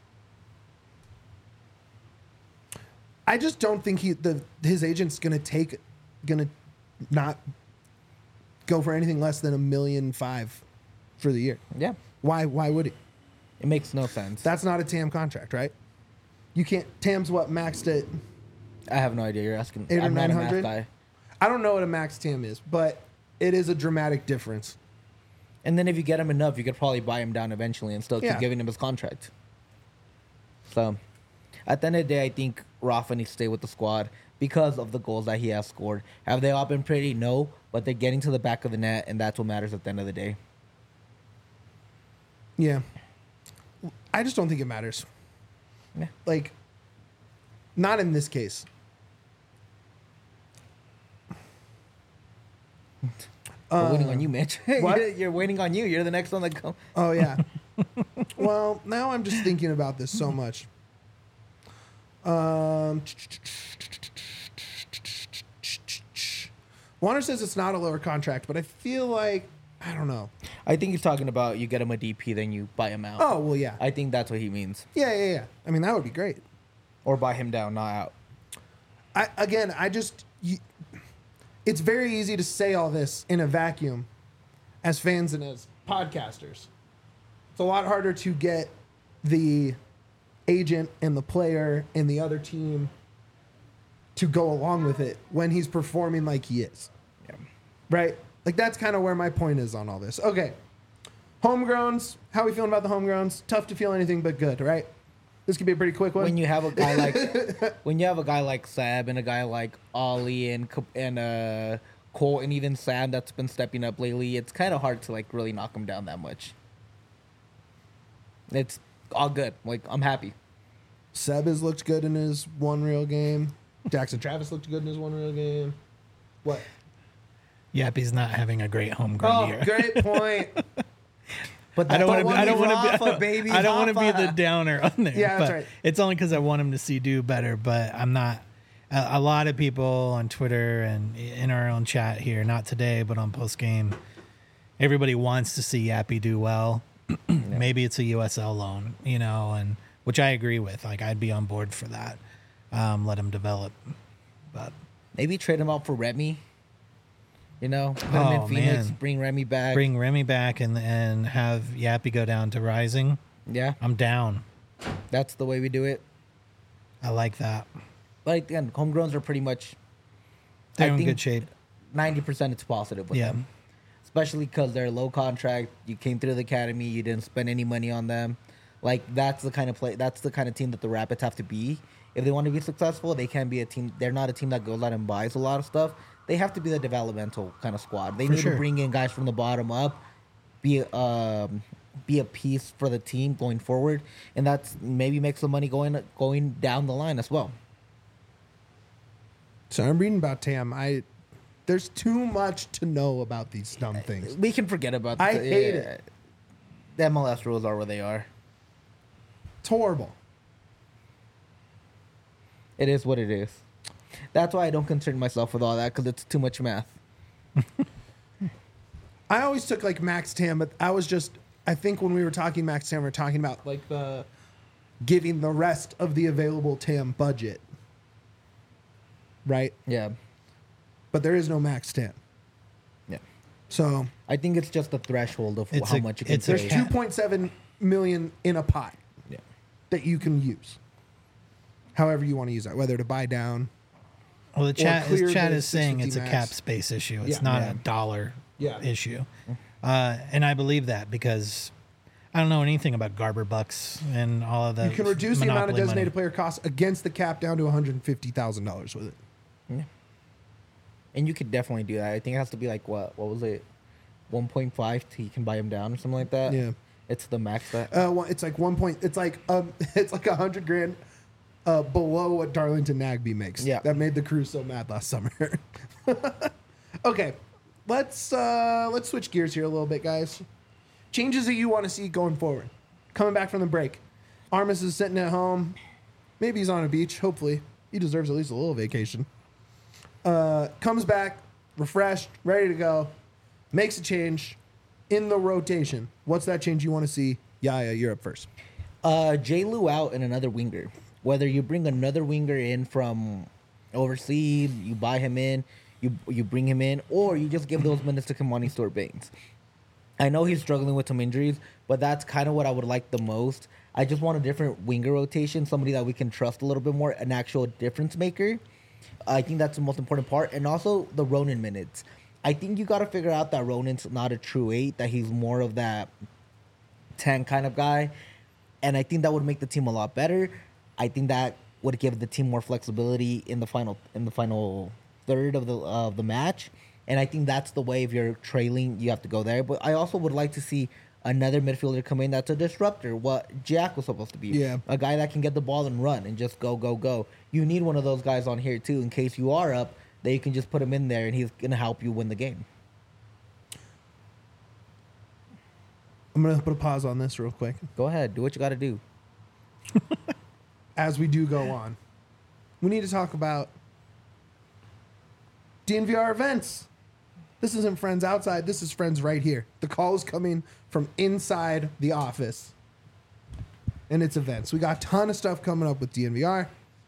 I just don't think his agent's gonna not go for anything less than $1.5 million for the year. Yeah. Why would he? It makes no sense. That's not a TAM contract, right? You can't. TAM's what maxed at. I have no idea. You're asking. 800 or I'm not a math 900? guy. I don't know what a max TAM is, but it is a dramatic difference. And then if you get him enough, you could probably buy him down eventually and still keep Yeah. giving him his contract. So, at the end of the day, I think Rafa needs to stay with the squad because of the goals that he has scored. Have they all been pretty? No, but they're getting to the back of the net, and that's what matters at the end of the day. Yeah. I just don't think it matters. Yeah. Like, not in this case. We're waiting on you, Mitch. what? You're waiting on you. You're the next one to go. Oh, yeah. Well, now I'm just thinking about this so much. Warner says it's not a lower contract, but I feel like, I don't know. I think he's talking about you get him a DP, then you buy him out. Oh, well, yeah. I think that's what he means. Yeah. I mean, that would be great. Or buy him down, not out. It's very easy to say all this in a vacuum as fans and as podcasters. It's a lot harder to get the agent and the player and the other team to go along with it when he's performing like he is. Yeah. Right? Like, that's kind of where my point is on all this. Okay. Homegrowns. How are we feeling about the homegrowns? Tough to feel anything but good, right? This could be a pretty quick one. When you have a guy like Seb and a guy like Ollie and Cole and even Sam that's been stepping up lately, it's kind of hard to like really knock him down that much. It's all good. Like, I'm happy. Seb has looked good in his one real game. Jackson Travis looked good in his one real game. What? Yappy's not having a great homegrown year. Great point. But I don't want to. one I don't we want to Rafa, be. baby, I don't want to be Rafa. the downer on there. Yeah, that's but right. It's only because I want him to see do better. But I'm not. A lot of people on Twitter and in our own chat here, not today, but on post game, everybody wants to see Yappy do well. Maybe it's a USL loan, and which I agree with. Like, I'd be on board for that. Let him develop. But Maybe trade him out for Remy. Put him in Oh, Phoenix, man. bring Remy back. bring Remy back and have Yappy go down to Rising. Yeah, I'm down. that's the way we do it. I like that. But again, homegrowns are pretty much They're I in think good shape. 90% it's positive with Yeah. them. Especially because they're low contract. You came through the academy. You didn't spend any money on them. Like, that's the kind of team that the Rapids have to be. If they want to be successful, they can't be a team. They're not a team that goes out and buys a lot of stuff. They have to be the developmental kind of squad. They For need sure. to bring in guys from the bottom up, be a piece for the team going forward, and that's maybe make some money going down the line as well. So I'm reading about Tam. There's too much to know about these dumb things. We can forget about. I hate it. The MLS rules are where they are. It's horrible. It is what it is. That's why I don't concern myself with all that, because it's too much math. I always took like Max Tam, but I think when we were talking Max Tam, we were talking about like the giving the rest of the available Tam budget. Right? Yeah. But there is no Max Tam. Yeah. So I think it's just the threshold of It's how a- much you can it's a pay. there's cap. 2.7 million in a pot Yeah. that you can use. However you want to use that, whether to buy down. Well, the chat clear is the saying 650 it's a max. cap space issue. It's Yeah. not Yeah. a dollar Yeah. issue. And I believe that because I don't know anything about Garber bucks and all of the. You can reduce the amount of monopoly designated money. player costs against the cap down to $150,000 with it. And you could definitely do that. I think it has to be like, what was it? 1.5 till you can buy them down or something like that. Yeah. It's the max that. Well, it's like it's like $100,000 below what Darlington Nagby makes. Yeah. That made the crew so mad last summer. Okay, let's switch gears here a little bit, guys. Changes that you want to see going forward. Coming back from the break, Armis is sitting at home. Maybe he's on a beach. Hopefully, he deserves at least a little vacation. Comes back refreshed, ready to go. Makes a change in the rotation. What's that change you want to see? Yaya, you're up first. J. Lou out and another winger. Whether you bring another winger in from overseas, you buy him in, you bring him in, or you just give those minutes to Kamani Stewart-Baines. I know he's struggling with some injuries, but that's kind of what I would like the most. I just want a different winger rotation, somebody that we can trust a little bit more, an actual difference maker. I think that's the most important part. And also the Ronan minutes. I think you got to figure out that Ronan's not a true 8, that he's more of that 10 kind of guy. And I think that would make the team a lot better. I think that would give the team more flexibility in the final third of the match. And I think that's the way, if you're trailing, you have to go there. But I also would like to see another midfielder come in that's a disruptor, what Jack was supposed to be. Yeah. A guy that can get the ball and run and just go, go, go. You need one of those guys on here, too, in case you are up, that you can just put him in there and he's going to help you win the game. I'm going to put a pause on this real quick. Go ahead. Do what you got to do. As we do go on, we need to talk about DNVR events. This isn't friends outside. This is friends right here. The call is coming from inside the office. And it's events. We got a ton of stuff coming up with DNVR.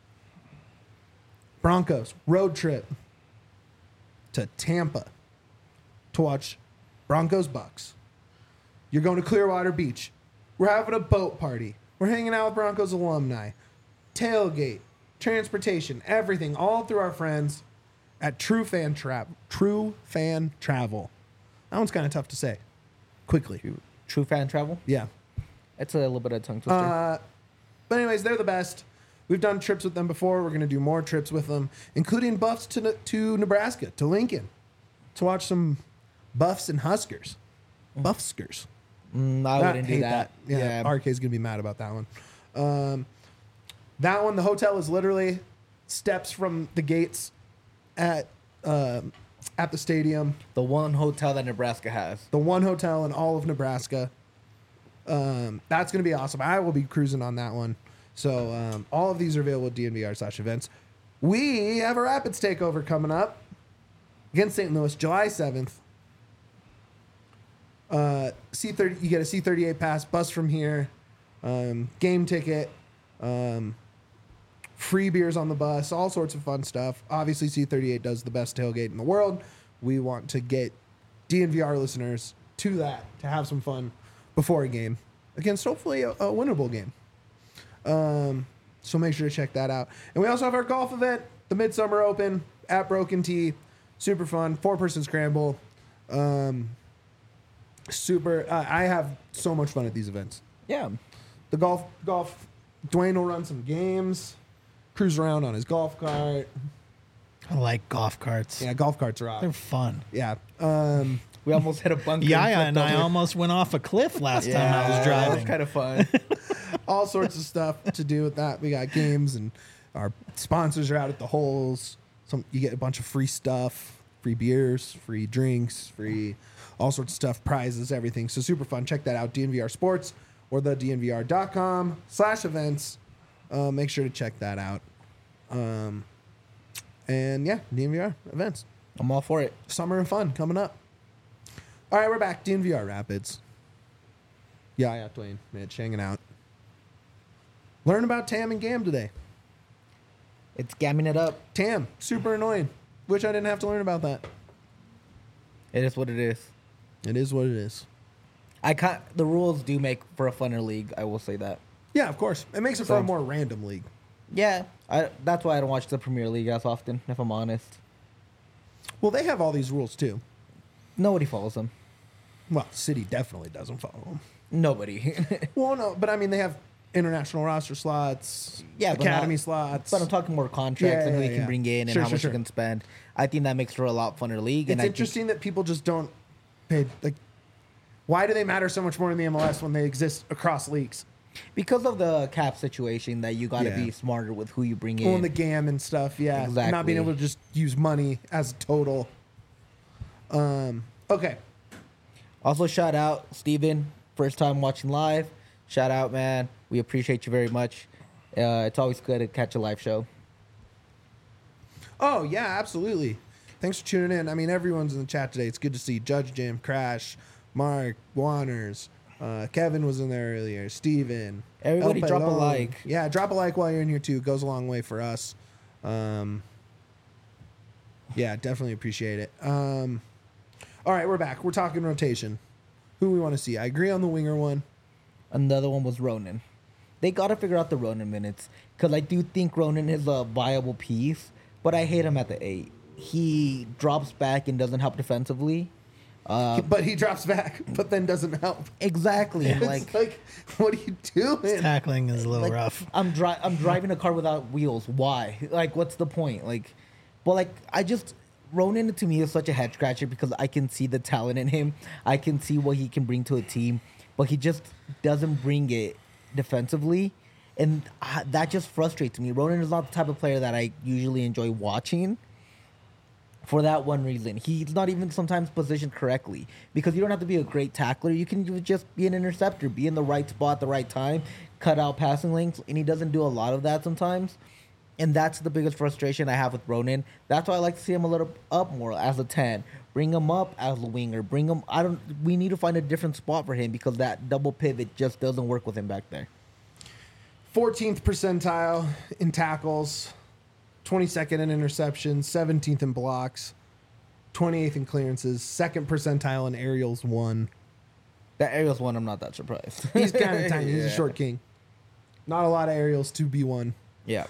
Broncos road trip to Tampa to watch Broncos Bucks. You're going to Clearwater Beach. We're having a boat party. We're hanging out with Broncos alumni. Tailgate, transportation, everything, all through our friends at True Fan Travel. That one's kind of tough to say. Quickly. True fan travel? Yeah. It's a little bit of a tongue twister. But anyways, they're the best. We've done trips with them before. We're going to do more trips with them, including buffs to Nebraska, to Lincoln. to watch some Buffs and Huskers. Buffskers. I wouldn't do hate that. Yeah, RK's gonna be mad about that one. That one, the hotel is literally steps from the gates at the stadium. The one hotel that Nebraska has. The one hotel in all of Nebraska. That's gonna be awesome. I will be cruising on that one. So all of these are available at DNVR/events. We have a Rapids takeover coming up against St. Louis, July 7th. C30, you get a C38 pass, bus from here, game ticket, free beers on the bus, all sorts of fun stuff. Obviously, C38 does the best tailgate in the world. We want to get DNVR listeners to that, to have some fun before a game against hopefully a winnable game. So make sure to check that out. And we also have our golf event, the Midsummer Open at Broken Tee. Super fun, 4-person scramble. I have so much fun at these events. Yeah. The golf. Dwayne will run some games, cruise around on his golf cart. I like golf carts. Yeah, golf carts are They're off. fun. Yeah. We almost hit a bunker. Yaya flipped and I over. almost went off a cliff last time I was That driving. was kind of fun. All sorts of stuff to do with that. We got games, and our sponsors are out at the holes. You get a bunch of free stuff, free beers, free drinks, free all sorts of stuff, prizes, everything. So super fun. Check that out, DNVR Sports or the DNVR.com/events. Make sure to check that out. And yeah, DNVR events. I'm all for it. Summer and fun coming up. All right, we're back. DNVR Rapids. Yeah, Dwayne, Mitch, hanging out. Learn about Tam and Gam today. It's gamming it up. Tam, super annoying. Wish I didn't have to learn about that. It is what it is. It is what it is. The rules do make for a funner league. I will say that. Yeah, of course. It makes it for a more random league. Yeah, that's why I don't watch the Premier League as often, if I'm honest. Well, they have all these rules too. Nobody follows them. Well, City definitely doesn't follow them. Nobody. Well, no, but I mean, they have international roster slots, Yeah, but academy not- slots. But I'm talking more contracts Yeah, and who yeah, you can yeah. bring in and Sure, how sure, much sure. you can spend. I think that makes for a lot funner league. It's and I think- interesting that people just don't pay. Like, why do they matter so much more in the MLS when they exist across leagues? because of the cap situation that you got to Yeah. be smarter with who you bring in. Well, and the GAM and stuff, yeah. Not being Exactly. able to just use money as a total. Okay. Also, shout out Steven, first time watching live. Shout out, man. We appreciate you very much. It's always good to catch a live show. Oh, yeah, absolutely. Thanks for tuning in. I mean, everyone's in the chat today. It's good to see Judge Jam, Crash, Mark, Wanners. Kevin was in there earlier. Steven. Everybody El drop a Pelon. like. Yeah, drop a like while you're in here, too. It goes a long way for us. Yeah, definitely appreciate it. All right, we're back. We're talking rotation. Who we want to see? I agree on the winger one. Another one was Ronan. They got to figure out the Ronan minutes because I do think Ronan is a viable piece, but I hate him at the 8. He drops back and doesn't help defensively. But he drops back, but then doesn't help. Exactly. It's Like, like, what are you doing? Tackling is a little like, rough. I'm driving a car without wheels. Why? Like, what's the point? Like, but like, Ronan to me is such a head scratcher because I can see the talent in him. I can see what he can bring to a team, but he just doesn't bring it defensively, and that just frustrates me. Ronan is not the type of player that I usually enjoy watching. For that one reason, he's not even sometimes positioned correctly because you don't have to be a great tackler. You can just be an interceptor, be in the right spot at the right time, cut out passing lanes, and he doesn't do a lot of that sometimes. And that's the biggest frustration I have with Ronan. That's why I like to see him a little up more as a 10. Bring him up as a winger. Bring him. We need to find a different spot for him because that double pivot just doesn't work with him back there. 14th percentile in tackles, 22nd in interceptions, 17th in blocks, 28th in clearances, 2nd percentile in aerials, 1. That Ariel's one, I'm not that surprised. He's kind of tiny. He's a Yeah. short king. Not a lot of aerials to be 1. Yeah.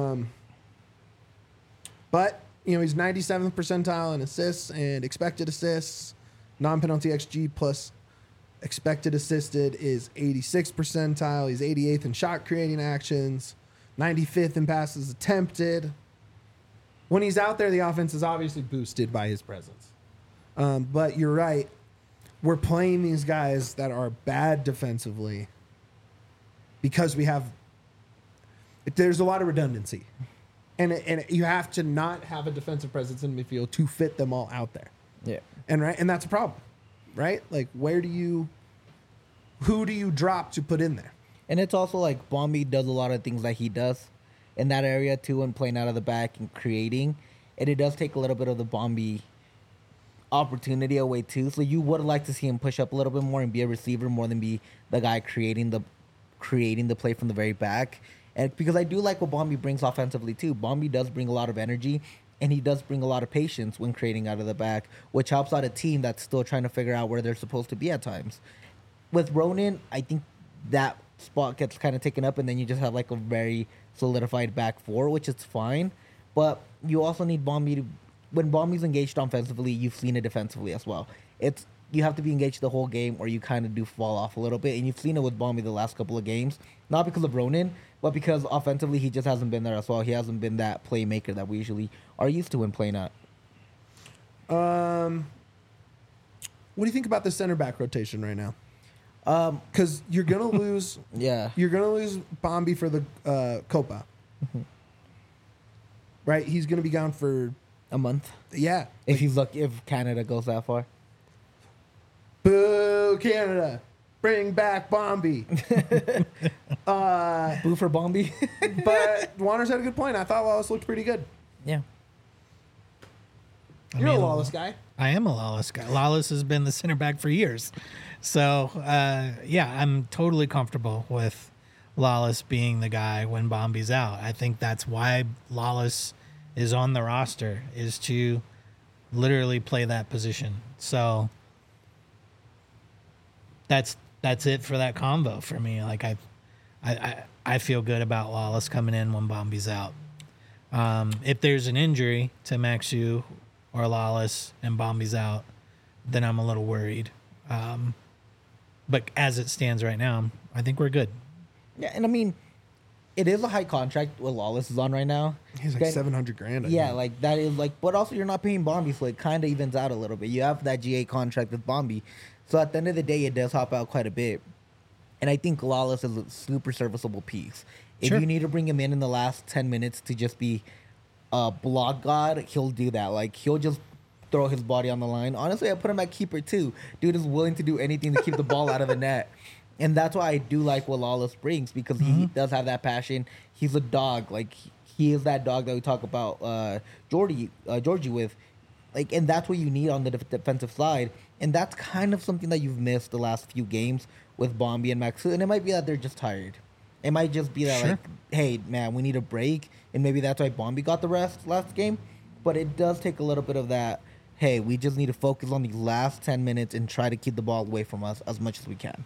But, he's 97th percentile in assists and expected assists. Non-penalty XG plus expected assisted is 86th percentile. He's 88th in shot creating actions, 95th in passes attempted. When he's out there, the offense is obviously boosted by his presence. But you're right. We're playing these guys that are bad defensively because there's a lot of redundancy. And you have to not have a defensive presence in midfield to fit them all out there. Yeah. And that's a problem, right? Like, who do you drop to put in there? And it's also like Bombi does a lot of things that he does in that area too, and playing out of the back and creating. And it does take a little bit of the Bombi opportunity away too. So you would like to see him push up a little bit more and be a receiver more than be the guy creating the play from the very back. And because I do like what Bombi brings offensively too. Bombi does bring a lot of energy, and he does bring a lot of patience when creating out of the back, which helps out a team that's still trying to figure out where they're supposed to be at times. With Ronan, I think that spot gets kind of taken up, and then you just have like a very solidified back four, which is fine. But you also need Bombi to, when Bombi's engaged offensively, you've seen it defensively as well. You have to be engaged the whole game, or you kind of do fall off a little bit, and you've seen it with Bombi the last couple of games, not because of Ronan, but because offensively he just hasn't been there as well. He hasn't been that playmaker that we usually are used to him playing at. What do you think about the center back rotation right now? Because you're gonna lose. Yeah. You're gonna lose Bombi for the Copa. Right, he's gonna be gone for A month. yeah. If Canada goes that far. Boo, Canada! Bring back Bombi. Boo for Bombi. But Wanners had a good point. I thought Lawless looked pretty good. Yeah. You're a Lawless guy. I am a Lawless guy. Lawless has been the center back for years. So, yeah, I'm totally comfortable with Lawless being the guy when Bombi's out. I think that's why Lawless is on the roster, is to literally play that position. So that's it for that combo for me. Like I feel good about Lawless coming in when Bombi's out. If there's an injury to Maxu or Lawless and Bombi's out, then I'm a little worried. But as it stands right now, I think we're good. Yeah, and I mean, it is a high contract what Lawless is on right now. He's like $700,000. I Yeah, think. like that is like, but also you're not paying Bombi, so it kind of evens out a little bit. You have that GA contract with Bombi, so at the end of the day, it does hop out quite a bit. And I think Lawless is a super serviceable piece. If Sure. you need to bring him in the last 10 minutes to just be a block god, he'll do that. Like he'll just throw his body on the line. Honestly, I put him at keeper too. Dude is willing to do anything to keep the ball out of the net. And that's why I do like what Lawless brings, because he does have that passion. He's a dog. Like he is that dog that we talk about Georgie with. Like, and that's what you need on the defensive side. And that's kind of something that you've missed the last few games with Bombi and Maxu. And it might be that they're just tired. It might just be that, Sure. like, hey, man, we need a break. And maybe that's why Bombi got the rest last game. But it does take a little bit of that, hey, we just need to focus on the last 10 minutes and try to keep the ball away from us as much as we can.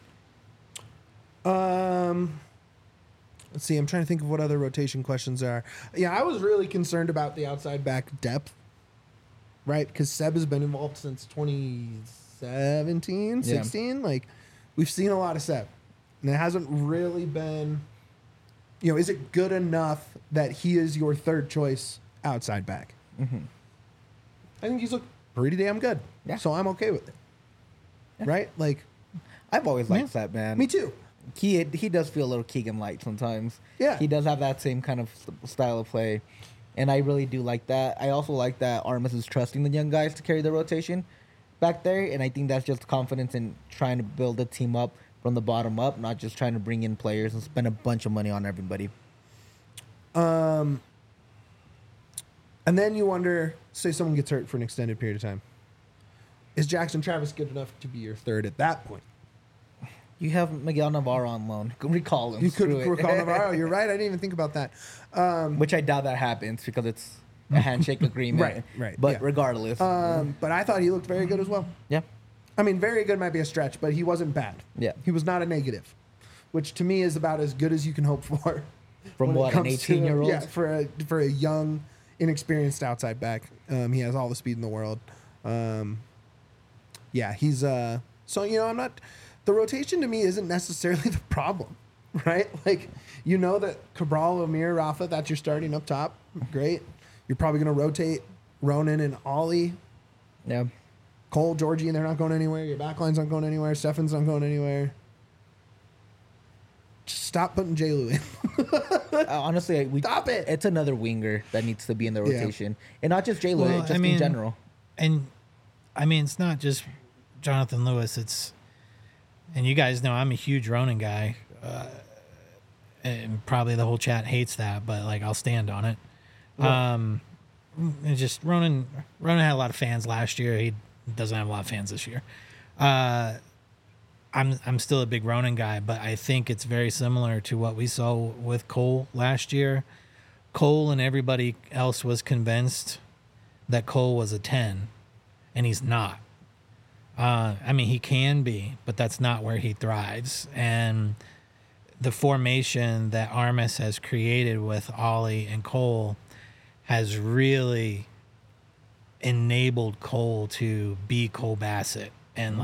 Let's see. I'm trying to think of what other rotation questions there are. Yeah, I was really concerned about the outside back depth, right? Because Seb has been involved since 2017, 16. Like, we've seen a lot of Seb. And it hasn't really been, is it good enough that he is your third choice outside back? I think he's looked pretty damn good. Yeah. So I'm okay with it. Right? Like, I've always liked that, man. me too. He does feel a little Keegan light sometimes. Yeah. He does have that same kind of style of play. And I really do like that. I also like that Armas is trusting the young guys to carry the rotation back there. And I think that's just confidence in trying to build a team up from the bottom up, not just trying to bring in players and spend a bunch of money on everybody. And then you wonder, say someone gets hurt for an extended period of time. Is Jackson Travis good enough to be your third at that point? You have Miguel Navarro on loan. Recall him. You could Screw it. recall Navarro. You're right. I didn't even think about that. Which I doubt that happens because it's a handshake agreement. Right, But yeah. regardless. But I thought he looked very good as well. Yeah. I mean, very good might be a stretch, but he wasn't bad. Yeah. He was not a negative, which to me is about as good as you can hope for. From when it what, an comes to- 18-year-old? Yeah, for a young, inexperienced outside back. He has all the speed in the world. Yeah, he's so I'm not. The rotation to me isn't necessarily the problem, right? Like, that Cabral, Amir, Rafa, that's your starting up top. Great. You're probably going to rotate Ronan and Ollie. Yeah. Cole, Georgie, they're not going anywhere. Your backline's not going anywhere. Stefan's not going anywhere. Just stop putting J-Lu in. Honestly, Stop it. It's another winger that needs to be in the Yeah. rotation, and not just J-Lo, Well, just I mean, in general. And I mean, it's not just Jonathan Lewis. And you guys know I'm a huge Ronan guy. And probably the whole chat hates that, but like I'll stand on it. It's just Ronan had a lot of fans last year. He doesn't have a lot of fans this year. I'm still a big Ronan guy, but I think it's very similar to what we saw with Cole last year. Cole and everybody else was convinced that Cole was a 10, and he's not. I mean, he can be, but that's not where he thrives. And the formation that Armas has created with Ollie and Cole has really enabled Cole to be Cole Bassett and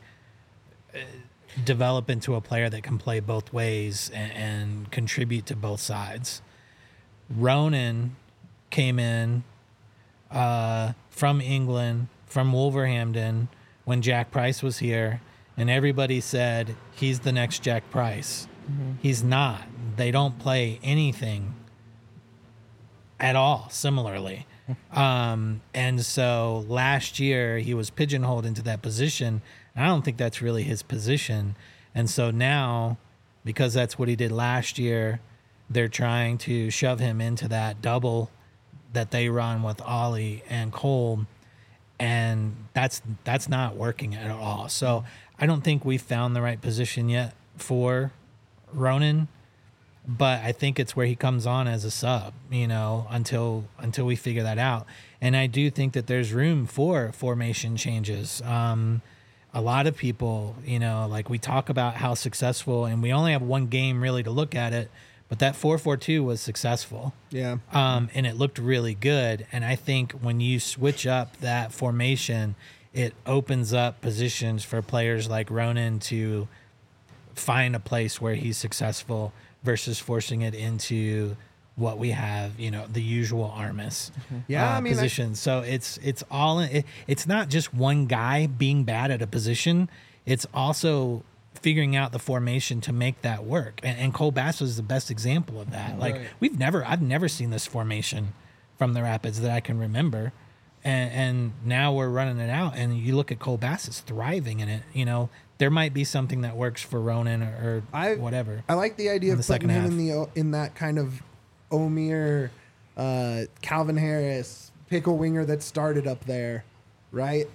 develop into a player that can play both ways and contribute to both sides. Ronan came in from England, from Wolverhampton, when Jack Price was here, and everybody said he's the next Jack Price. He's not. They don't play anything at all similarly. And so last year he was pigeonholed into that position. And I don't think that's really his position. And so now, because that's what he did last year, they're trying to shove him into that double that they run with Ollie and Cole. And that's not working at all. So I don't think we found the right position yet for Ronan, but I think it's where he comes on as a sub, until we figure that out. And I do think that there's room for formation changes. A lot of people, we talk about how successful, and we only have one game really to look at it, but that 4-4-2 was successful. Yeah. And it looked really good. And I think when you switch up that formation, it opens up positions for players like Ronan to find a place where he's successful versus forcing it into what we have, the usual Armas position. So it's all in, it's not just one guy being bad at a position. It's also figuring out the formation to make that work. And Cole Bass was the best example of that. Like I've never seen this formation from the Rapids that I can remember. And now we're running it out, and you look at Cole Bass is thriving in it. There might be something that works for Ronan or whatever. I like the idea in of the putting second him in that kind of Omir, Calvin Harris, pickle winger that started up there, right?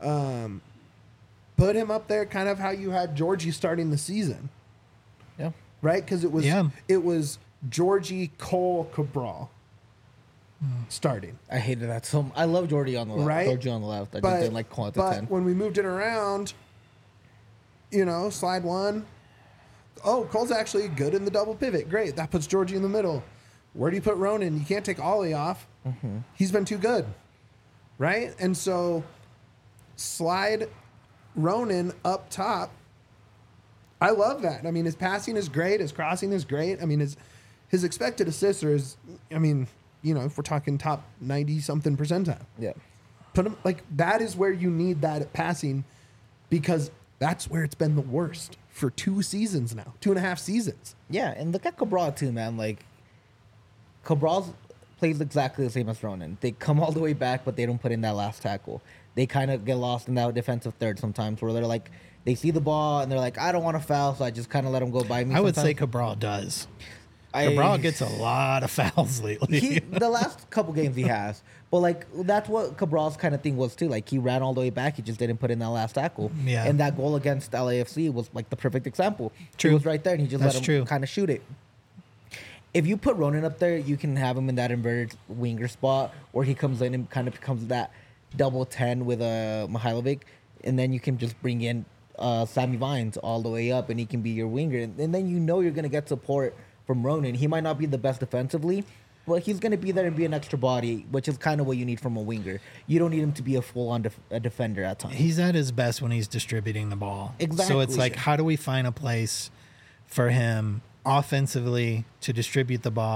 Put him up there kind of how you had Georgie starting the season. Yeah. Right? Because it was Georgie, Cole, Cabral starting. I hated that so much. I love Georgie on the left. Right? Georgie on the left. I just didn't like Cole at the 10. When we moved it around, slide one. Oh, Cole's actually good in the double pivot. Great. That puts Georgie in the middle. Where do you put Ronan? You can't take Ollie off. He's been too good. Right? And so slide Ronan up top. I love that. I mean, his passing is great. His crossing is great. I mean, his expected assists are, if we're talking top 90-something percentile. Yeah. Put him, that is where you need that at passing, because that's where it's been the worst for 2 seasons now, 2.5 seasons. Yeah, and look at Cabral too, man. Cabral plays exactly the same as Ronan. They come all the way back, but they don't put in that last tackle. They kind of get lost in that defensive third sometimes, where they're like, they see the ball and they're like, I don't want to foul, so I just kind of let them go by me. I would say Cabral does. Cabral gets a lot of fouls lately. The last couple games he has. But, that's what Cabral's kind of thing was, too. He ran all the way back. He just didn't put in that last tackle. Yeah. And that goal against LAFC was, the perfect example. True. He was right there, and he just That's let him true. kind of shoot it. If you put Ronan up there, you can have him in that inverted winger spot, or he comes in and kind of becomes that double 10 with Mihailovic, and then you can just bring in Sammy Vines all the way up, and he can be your winger. And then you're going to get support from Ronan. He might not be the best defensively, but he's going to be there and be an extra body, which is kind of what you need from a winger. You don't need him to be a full-on defender at times. He's at his best when he's distributing the ball. Exactly. So it's how do we find a place for him offensively to distribute the ball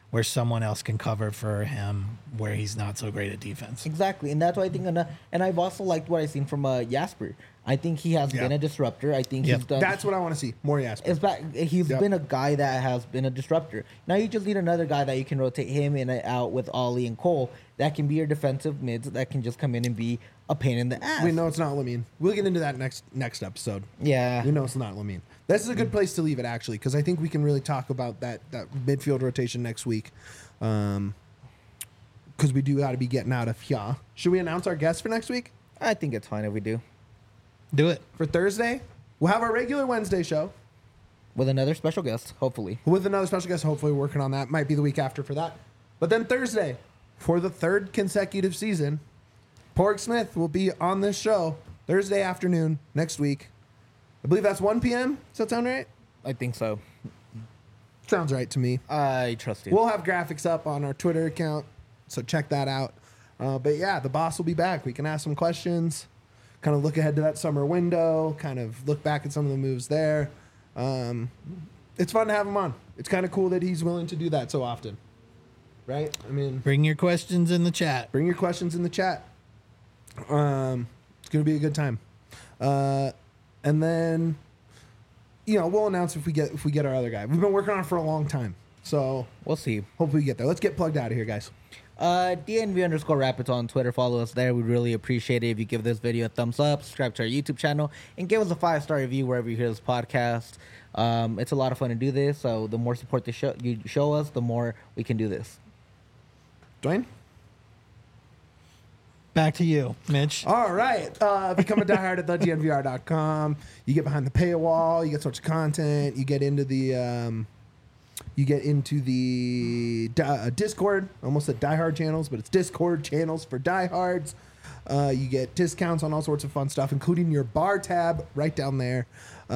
where someone else can cover for him where he's not so great at defense. Exactly, and that's why I think. And I've also liked what I've seen from Jasper. I think he has been a disruptor. I think Yep. he's done. That's what I want to see. More Jasper. It's back. He's been a guy that has been a disruptor. Now you just need another guy that you can rotate him in and out with Ollie and Cole. That can be your defensive mids that can just come in and be a pain in the ass. We know it's not Lamine. We'll get into that next episode. Yeah. We know it's not Lamine. This is a good place to leave it, actually, because I think we can really talk about that midfield rotation next week. Because we do got to be getting out of here. Should we announce our guest for next week? I think it's fine if we do. Do it. For Thursday, we'll have our regular Wednesday show With another special guest, hopefully. with another special guest. Hopefully, working on that. Might be the week after for that. But then Thursday, for the third consecutive season, Porg Smith will be on this show Thursday afternoon next week. I believe that's 1 p.m. Does that sound right? I think so. Sounds right to me. I trust you. We'll have graphics up on our Twitter account, so check that out. But yeah, the boss will be back. We can ask some questions, kind of look ahead to that summer window, kind of look back at some of the moves there. It's fun to have him on. It's kind of cool that he's willing to do that so often, right? I mean, Bring your questions in the chat. bring your questions in the chat. It's gonna be a good time. And then, we'll announce if we get our other guy. We've been working on it for a long time, so We'll see. hopefully we get there. Let's get plugged out of here, guys. DNV_Rapids on Twitter. Follow us there. We'd really appreciate it if you give this video a thumbs up, subscribe to our YouTube channel, and give us a 5-star review wherever you hear this podcast. It's a lot of fun to do this, so the more support you show us, the more we can do this. Dwayne? Back to you, Mitch. All right. Become a diehard at thednvr.com. You get behind the paywall. You get sorts of content. You get into the Discord. Almost said diehard channels, but it's Discord channels for diehards. You get discounts on all sorts of fun stuff, including your bar tab right down there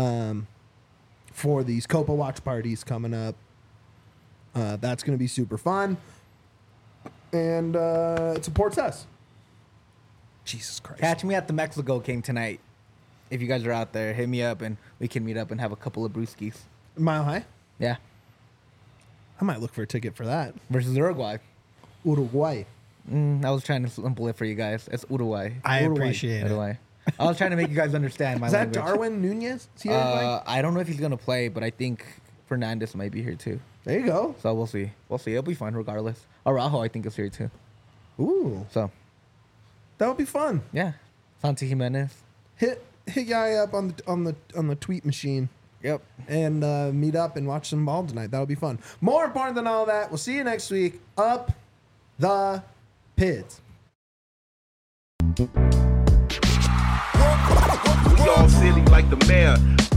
for these Copa watch parties coming up. That's going to be super fun. And it supports us. Jesus Christ. Catch me at the Mexico King tonight. If you guys are out there, hit me up and we can meet up and have a couple of brewskis. Mile High? Yeah. I might look for a ticket for that. Versus Uruguay. Uruguay. I was trying to simple it for you guys. It's Uruguay. I Uruguay. appreciate it. Uruguay. I was trying to make you guys understand my Is that language. Darwin Nunez? Is he Uruguay? I don't know if he's going to play, but I think Fernandez might be here too. There you go. So we'll see. We'll see. It'll be fun regardless. Araujo, I think, is here too. Ooh, So, that would be fun. yeah. Santi Jimenez. Hit guy up on the tweet machine Yep. and meet up and watch some ball tonight. That'll be fun. More important than all that, we'll see you next week. Up the Pids. We all silly like the mayor.